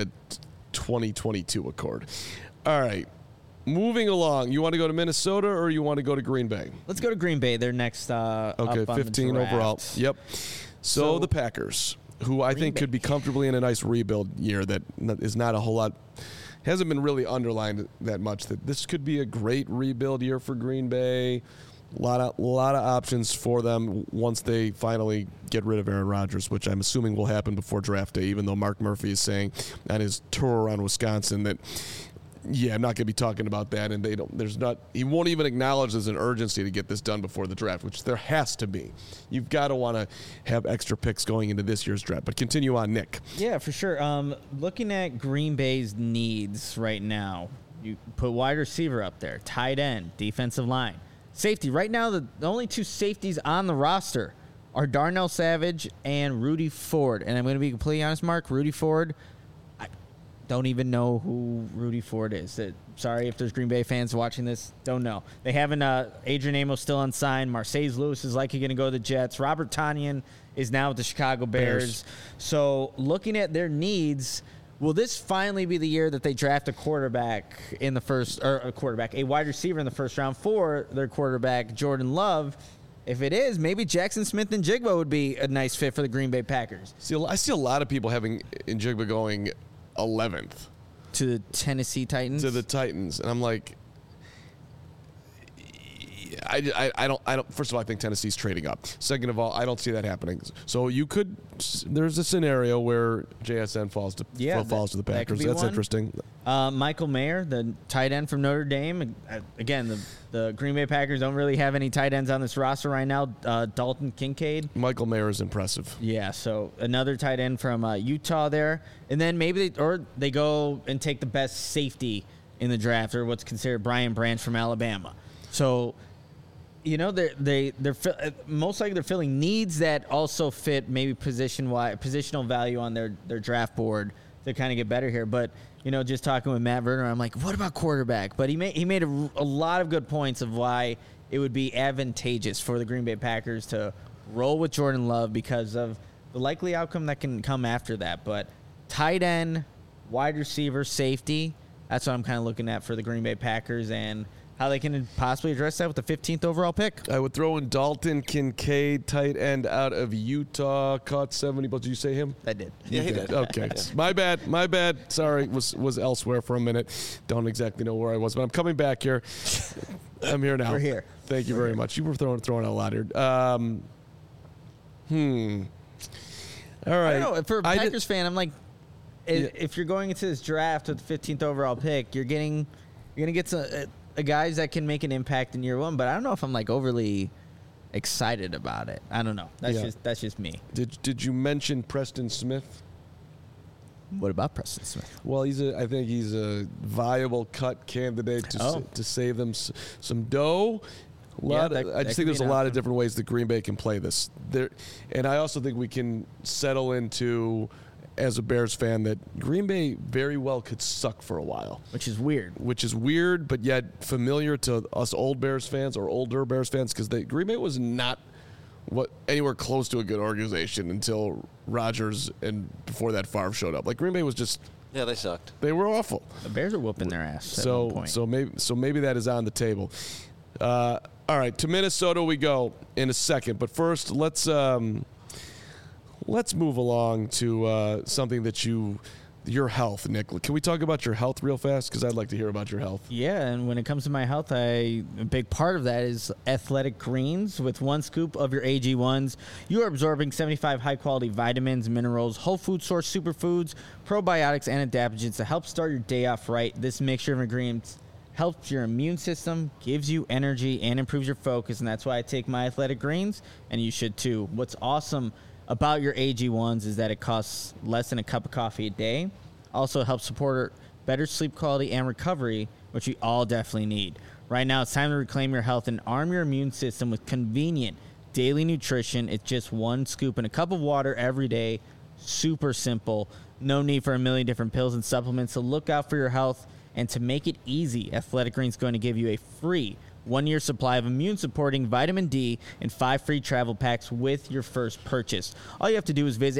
2022 Accord. All right, moving along. You want to go to Minnesota or you want to go to Green Bay? Let's go to Green Bay. They're next. Okay, up on 15 the draft. overall. Yep. So the Packers, who I think could be comfortably in a nice rebuild year that is not a whole lot, hasn't been really underlined that much. That this could be a great rebuild year for Green Bay. A lot of options for them once they finally get rid of Aaron Rodgers, which I'm assuming will happen before draft day, even though Mark Murphy is saying on his tour around Wisconsin that, I'm not going to be talking about that, and he won't even acknowledge there's an urgency to get this done before the draft, which there has to be. You've got to want to have extra picks going into this year's draft. But continue on, Nick. Yeah, for sure. Looking at Green Bay's needs right now, you put wide receiver up there, tight end, defensive line. Safety. Right now, the only two safeties on the roster are Darnell Savage and Rudy Ford. And I'm going to be completely honest, Mark. Rudy Ford, I don't even know who Rudy Ford is. Sorry if there's Green Bay fans watching this. Don't know. They haven't. Adrian Amos still unsigned. Marseille Lewis is likely going to go to the Jets. Robert Tonyan is now with the Chicago Bears. So looking at their needs, will this finally be the year that they draft a quarterback in the first, or a wide receiver in the first round for their quarterback, Jordan Love? If it is, maybe Jackson Smith and Jigba would be a nice fit for the Green Bay Packers. I see a lot of people having Njigba going 11th. To the Tennessee Titans? To the Titans. And I'm like, I don't. First of all, I think Tennessee's trading up. Second of all, I don't see that happening. So there's a scenario where JSN falls to the Packers. That's interesting. Michael Mayer, the tight end from Notre Dame. Again, the Green Bay Packers don't really have any tight ends on this roster right now. Dalton Kincaid. Michael Mayer is impressive. Yeah, so another tight end from Utah there. And then maybe they go and take the best safety in the draft, or what's considered Brian Branch from Alabama. So, they're most likely they're filling needs that also fit maybe positional value on their draft board to kind of get better here. But just talking with Matt Verner, I'm like, what about quarterback? But he made a lot of good points of why it would be advantageous for the Green Bay Packers to roll with Jordan Love because of the likely outcome that can come after that. But tight end, wide receiver, safety, that's what I'm kind of looking at for the Green Bay Packers and how they can possibly address that with the 15th overall pick. I would throw in Dalton Kincaid, tight end out of Utah, caught 70. But did you say him? I did. Yeah, he did. Okay. My bad. Sorry, was elsewhere for a minute. Don't exactly know where I was, but I'm coming back here. I'm here now. We're here. Thank you very much. You were throwing out a lot here. All right. I don't know. For a Packers fan, I'm like, if you're going into this draft with the 15th overall pick, you're going to get some guys that can make an impact in year one. But I don't know if I'm like overly excited about it. I don't know. That's just me. Did you mention Preston Smith? What about Preston Smith? Well, I think he's a viable cut candidate to save them some dough. I just think there's a lot of different ways that Green Bay can play this. And I also think we can settle into, as a Bears fan, that Green Bay very well could suck for a while. Which is weird, but yet familiar to us old Bears fans or older Bears fans, because Green Bay was not anywhere close to a good organization until Rodgers and before that Favre showed up. Like, Green Bay was just... Yeah, they sucked. They were awful. The Bears are whooping their ass at one point. So maybe that is on the table. All right, to Minnesota we go in a second. But first, let's move along to something that your health, Nick. Can we talk about your health real fast? Because I'd like to hear about your health. Yeah, and when it comes to my health, a big part of that is Athletic Greens. With 1 scoop of your AG1s, you are absorbing 75 high-quality vitamins, minerals, whole food source superfoods, probiotics, and adaptogens to help start your day off right. This mixture of ingredients helps your immune system, gives you energy, and improves your focus, and that's why I take my Athletic Greens, and you should too. What's awesome about your AG1s is that it costs less than a cup of coffee a day. Also helps support better sleep quality and recovery, which we all definitely need. Right now, it's time to reclaim your health and arm your immune system with convenient daily nutrition. It's just 1 scoop in a cup of water every day. Super simple. No need for a million different pills and supplements. So look out for your health. And to make it easy, Athletic Greens is going to give you a free 1-year supply of immune-supporting vitamin D and 5 free travel packs with your first purchase. All you have to do is visit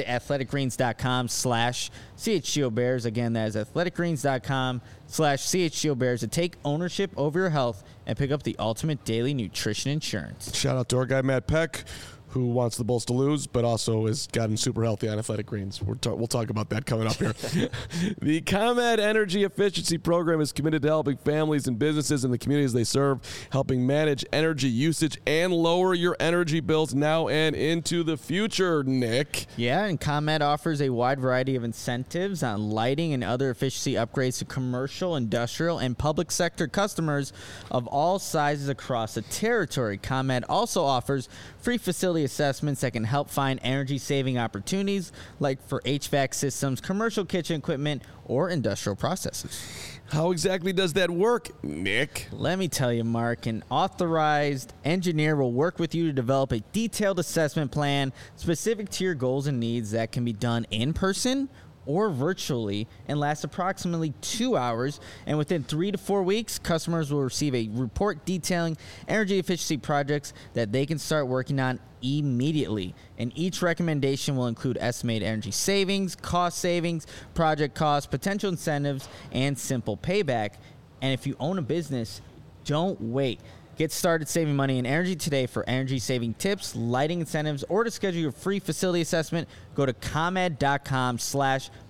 athleticgreens.com/CHGOBears. Again, that is athleticgreens.com/CHGOBears to take ownership over your health and pick up the ultimate daily nutrition insurance. Shout out to our guy, Matt Peck, who wants the Bulls to lose, but also has gotten super healthy on Athletic Greens. We'll talk about that coming up here. The ComEd Energy Efficiency Program is committed to helping families and businesses in the communities they serve, helping manage energy usage and lower your energy bills now and into the future, Nick. Yeah, and ComEd offers a wide variety of incentives on lighting and other efficiency upgrades to commercial, industrial, and public sector customers of all sizes across the territory. ComEd also offers free facility assessments that can help find energy-saving opportunities like for HVAC systems, commercial kitchen equipment, or industrial processes. How exactly does that work, Nick? Let me tell you, Mark. An authorized engineer will work with you to develop a detailed assessment plan specific to your goals and needs that can be done in person or virtually and lasts approximately 2 hours. And within 3 to 4 weeks, customers will receive a report detailing energy efficiency projects that they can start working on immediately. And each recommendation will include estimated energy savings, cost savings, project costs, potential incentives, and simple payback. And if you own a business, don't wait. Get started saving money and energy today. For energy-saving tips, lighting incentives, or to schedule your free facility assessment, go to ComEd.com/podcast.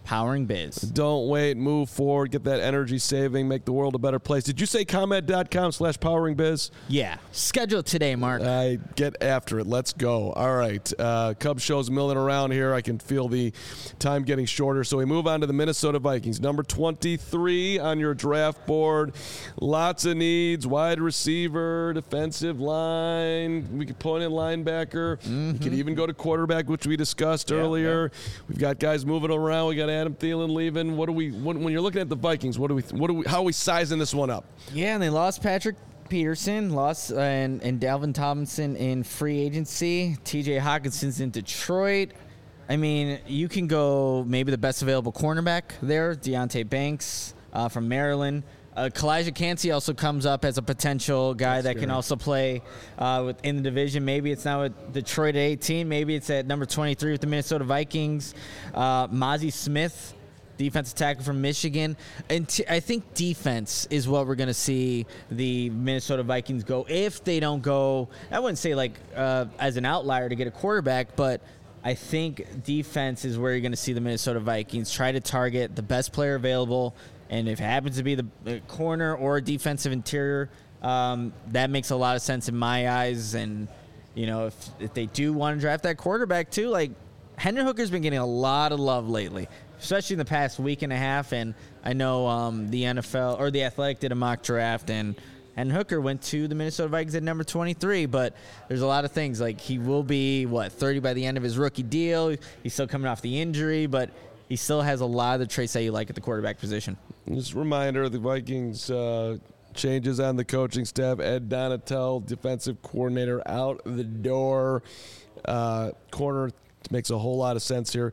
Powering Biz. Don't wait. Move forward. Get that energy saving. Make the world a better place. Did you say ComEd.com/poweringbiz? Yeah. Schedule it today, Mark. Get after it. Let's go. All right. Cubs show's milling around here. I can feel the time getting shorter. So we move on to the Minnesota Vikings. Number 23 on your draft board. Lots of needs. Wide receiver, defensive line. We could point in linebacker. We could even go to quarterback, which we discussed earlier. Yeah. We've got guys moving around. We got Adam Thielen leaving. When you're looking at the Vikings, how are we sizing this one up? Yeah, and they lost Patrick Peterson, and Dalvin Tomlinson in free agency. TJ Hawkinson's in Detroit. I mean, you can go maybe the best available cornerback there, Deonte Banks from Maryland. Kalijah Kancey also comes up as a potential guy that can also play in the division. Maybe it's now at Detroit at 18. Maybe it's at number 23 with the Minnesota Vikings. Mozzie Smith, defensive tackle from Michigan. And I think defense is what we're going to see the Minnesota Vikings go. If they don't go, I wouldn't say as an outlier to get a quarterback, but I think defense is where you're going to see the Minnesota Vikings try to target the best player available. And if it happens to be the corner or defensive interior, that makes a lot of sense in my eyes. And, if they do want to draft that quarterback too, like Hendon Hooker's been getting a lot of love lately, especially in the past week and a half. And I know the NFL or the Athletic did a mock draft, and Hendon Hooker went to the Minnesota Vikings at number 23. But there's a lot of things. Like he will be, 30 by the end of his rookie deal. He's still coming off the injury, but he still has a lot of the traits that you like at the quarterback position. Just a reminder, the Vikings changes on the coaching staff. Ed Donatel, defensive coordinator, out the door. Corner makes a whole lot of sense here.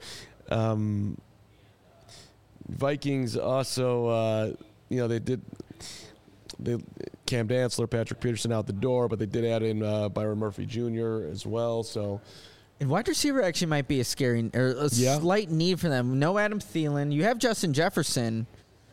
Vikings also, Cam Dantzler, Patrick Peterson out the door, but they did add in Byron Murphy Jr. as well. So. And wide receiver actually might be a slight need for them. No Adam Thielen. You have Justin Jefferson.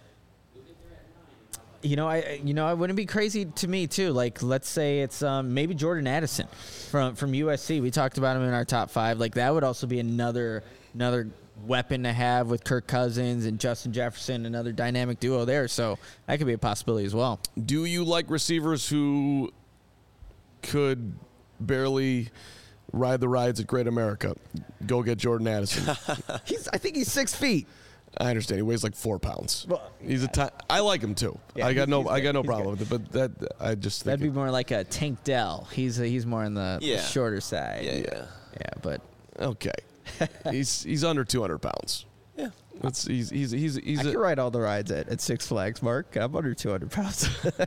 I wouldn't be crazy to me too. Like, let's say it's maybe Jordan Addison from USC. We talked about him in our top 5. Like, that would also be another weapon to have with Kirk Cousins and Justin Jefferson, another dynamic duo there. So that could be a possibility as well. Do you like receivers who could barely ride the rides at Great America? Go get Jordan Addison. I think he's 6 feet. I understand. He weighs like 4 pounds. Well, he's I like him too. Yeah, I got no problem with it. But I just think that'd be more like a Tank Dell. He's more on the shorter side. Yeah. But okay. he's under 200 pounds. Yeah. He's I can ride all the rides at Six Flags, Mark. I'm under 200 pounds.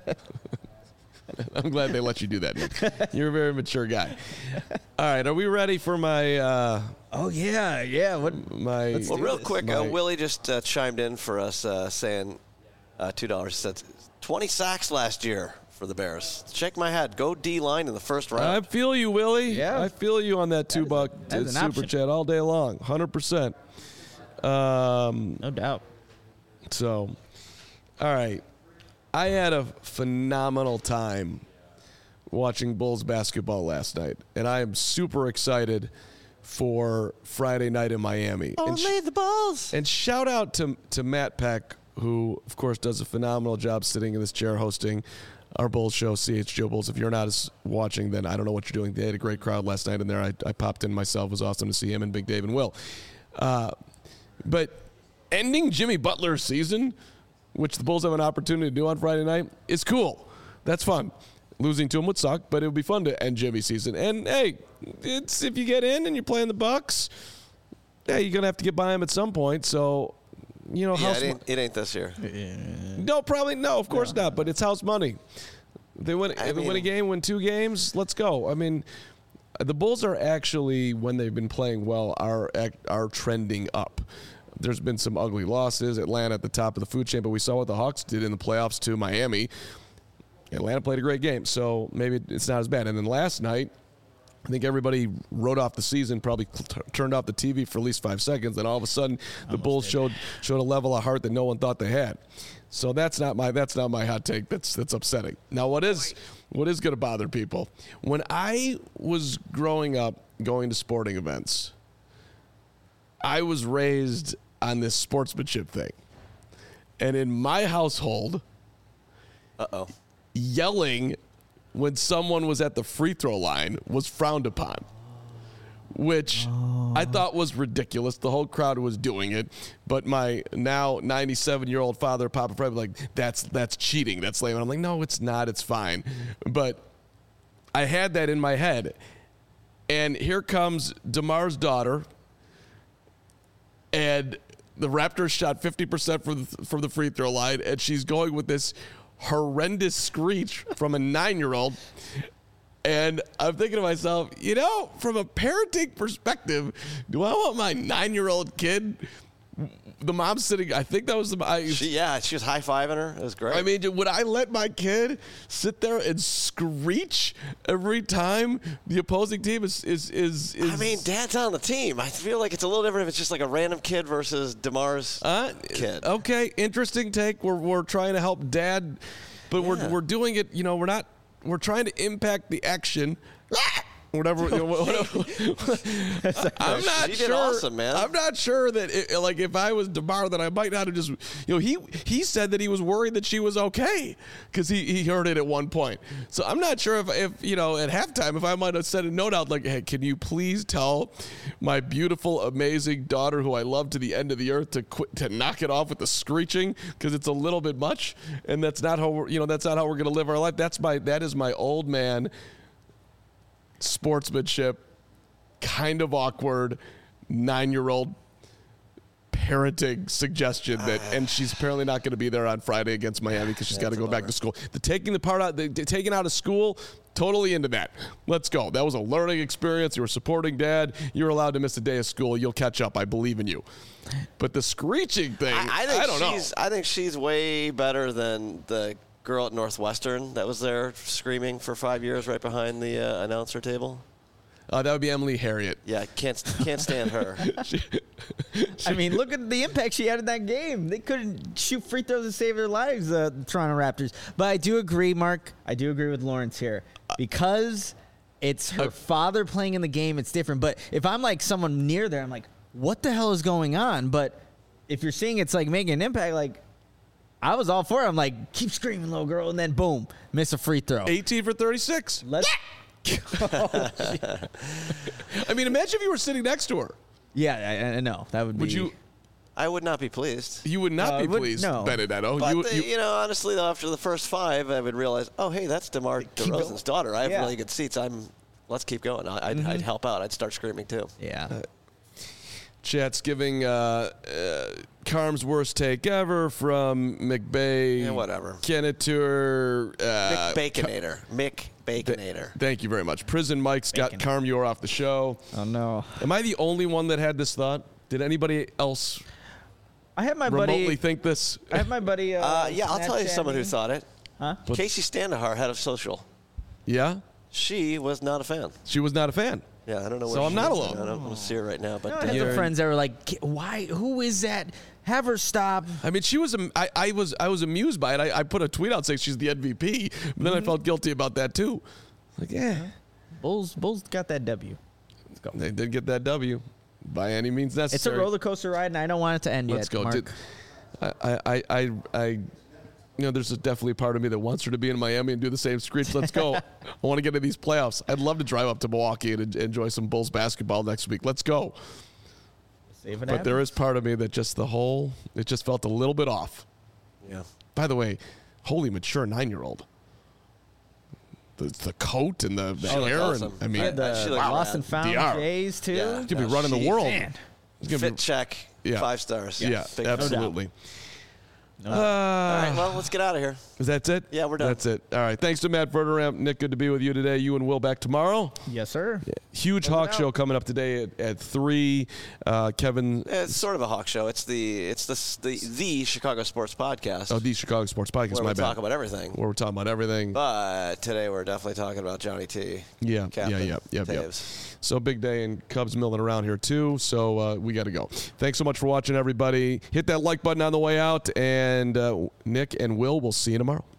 I'm glad they let you do that, Nick. You're a very mature guy. All right, are we ready for my... oh, yeah. Well, real quick, Willie just chimed in for us saying $2. He said 20 sacks last year for the Bears. Shake my head. Go D-line in the first round. I feel you, Willie. Yeah. I feel you on that $2 super chat all day long. 100%. No doubt. So, all right. I had a phenomenal time watching Bulls basketball last night, and I am super excited for Friday night in Miami. Only the Bulls. And shout out to Matt Peck, who, of course, does a phenomenal job sitting in this chair hosting our Bulls show, CHGO Bulls. If you're not watching, then I don't know what you're doing. They had a great crowd last night in there. I popped in myself. It was awesome to see him and Big Dave and Will. But ending Jimmy Butler's season, which the Bulls have an opportunity to do on Friday night, is cool. That's fun. Losing to him would suck, but it would be fun to end Jimmy's season. And, hey, it's if you get in and you're playing the Bucks, you're going to have to get by him at some point. So, it ain't this year. No, probably no. Of course not. But it's house money. They win a game, win 2 games. Let's go. I mean, the Bulls are actually, when they've been playing well, are trending up. There's been some ugly losses. Atlanta at the top of the food chain, but we saw what the Hawks did in the playoffs to Miami. Atlanta played a great game, so maybe it's not as bad. And then last night, I think everybody wrote off the season, probably turned off the TV for at least 5 seconds, and all of a sudden the Bulls showed a level of heart that no one thought they had. So that's not my hot take. That's upsetting. Now, what is going to bother people? When I was growing up, going to sporting events, I was raised on this sportsmanship thing. And in my household, yelling when someone was at the free throw line was frowned upon, which I thought was ridiculous. The whole crowd was doing it, but my now 97-year-old father, Papa Fred, was like, that's cheating. That's lame. And I'm like, no, it's not. It's fine. But I had that in my head. And here comes DeMar's daughter, and the Raptors shot 50% from the free throw line, and she's going with this horrendous screech from a 9-year-old. And I'm thinking to myself, from a parenting perspective, do I want my 9-year-old kid? The mom's sitting, I think that was she was high-fiving her. It was great. I mean, would I let my kid sit there and screech every time the opposing team is I mean, Dad's on the team. I feel like it's a little different if it's just like a random kid versus DeMar's kid. Okay, interesting take. We're trying to help Dad, but we're doing it, we're trying to impact the action. Whatever. I'm not you sure. Did awesome, man. I'm not sure that if I was DeMar, that I might not have just. He said that he was worried that she was okay because he heard it at one point. So I'm not sure if at halftime if I might have sent a note out like, hey, can you please tell my beautiful, amazing daughter who I love to the end of the earth to knock it off with the screeching because it's a little bit much, and that's not how we're going to live our life. That is my old man sportsmanship, kind of awkward 9-year-old parenting suggestion and she's apparently not going to be there on Friday against Miami because she's got to go back to school. Taking out of school, totally into that. Let's go. That was a learning experience. You were supporting Dad. You're allowed to miss a day of school. You'll catch up. I believe in you. But the screeching thing, I don't know. I think she's way better than the girl at Northwestern that was there screaming for 5 years right behind the announcer table. That would be Emily Harriet. Yeah, can't stand her. I mean, look at the impact she had in that game. They couldn't shoot free throws to save their lives, the Toronto Raptors. But I do agree, Mark. I do agree with Lawrence here. Because it's her father playing in the game, it's different. But if I'm like someone near there, I'm like, what the hell is going on? But if you're seeing it's like making an impact, like, I was all for it. I'm like, keep screaming, little girl, and then boom, miss a free throw. 18 for 36. Let's. I mean, imagine if you were sitting next to her. Yeah, I know that would be. Would you? I would not be pleased. You would not be pleased, no. Benedetto. But honestly, though, after the first 5, I would realize, oh, hey, that's DeMar DeRozan's daughter. I have really good seats. Let's keep going. I'd help out. I'd start screaming too. Yeah. Chat's giving Carm's worst take ever from McBay. Yeah, whatever. Kennetur. Mick Baconator. Thank you very much. Prison Mike's got Carm Yor off the show. Oh, no. Am I the only one that had this thought? Did anybody else I have my remotely think this? I have my buddy. Yeah, I'll tell you someone who thought it. Huh? Casey Standahar, head of social. Yeah? She was not a fan. She was not a fan. Yeah, I don't know. So I'm not alone. I don't see her right now, but I have some friends that were like, "Why? Who is that? Have her stop." I mean, she was. I was amused by it. I put a tweet out saying she's the MVP, but then I felt guilty about that too. Like, yeah, Bulls got that W. Let's go. They did get that W, by any means necessary. It's a roller coaster ride, and I don't want it to end yet. Let's go. Mark. There's definitely a part of me that wants her to be in Miami and do the same screech. Let's go. I want to get into these playoffs. I'd love to drive up to Milwaukee and enjoy some Bulls basketball next week. Let's go. But there is part of me that it just felt a little bit off. Yeah. By the way, holy mature 9-year-old. The coat and the hair. Awesome. And, I mean, the Lost and Found Jays, too. Yeah. He's going to be running the world. Man. Fit check. Yeah. 5 stars. Yeah, Big absolutely. all right, well, let's get out of here. That's it? Yeah, we're done. That's it. All right. Thanks to Matt Verderamp. Nick, good to be with you today. You and Will back tomorrow. Yes, sir. Yeah. Huge Hawk show coming up today at 3. Kevin. It's sort of a Hawk show. It's the Chicago Sports Podcast. Oh, the Chicago Sports Podcast. Where my we bad. talk about everything. Where we're talking about everything. But today we're definitely talking about Johnny T. Yeah. Captain Yeah. Taves. So big day, and Cubs milling around here too. So we got to go. Thanks so much for watching, everybody. Hit that like button on the way out, and Nick and Will, we'll see you tomorrow.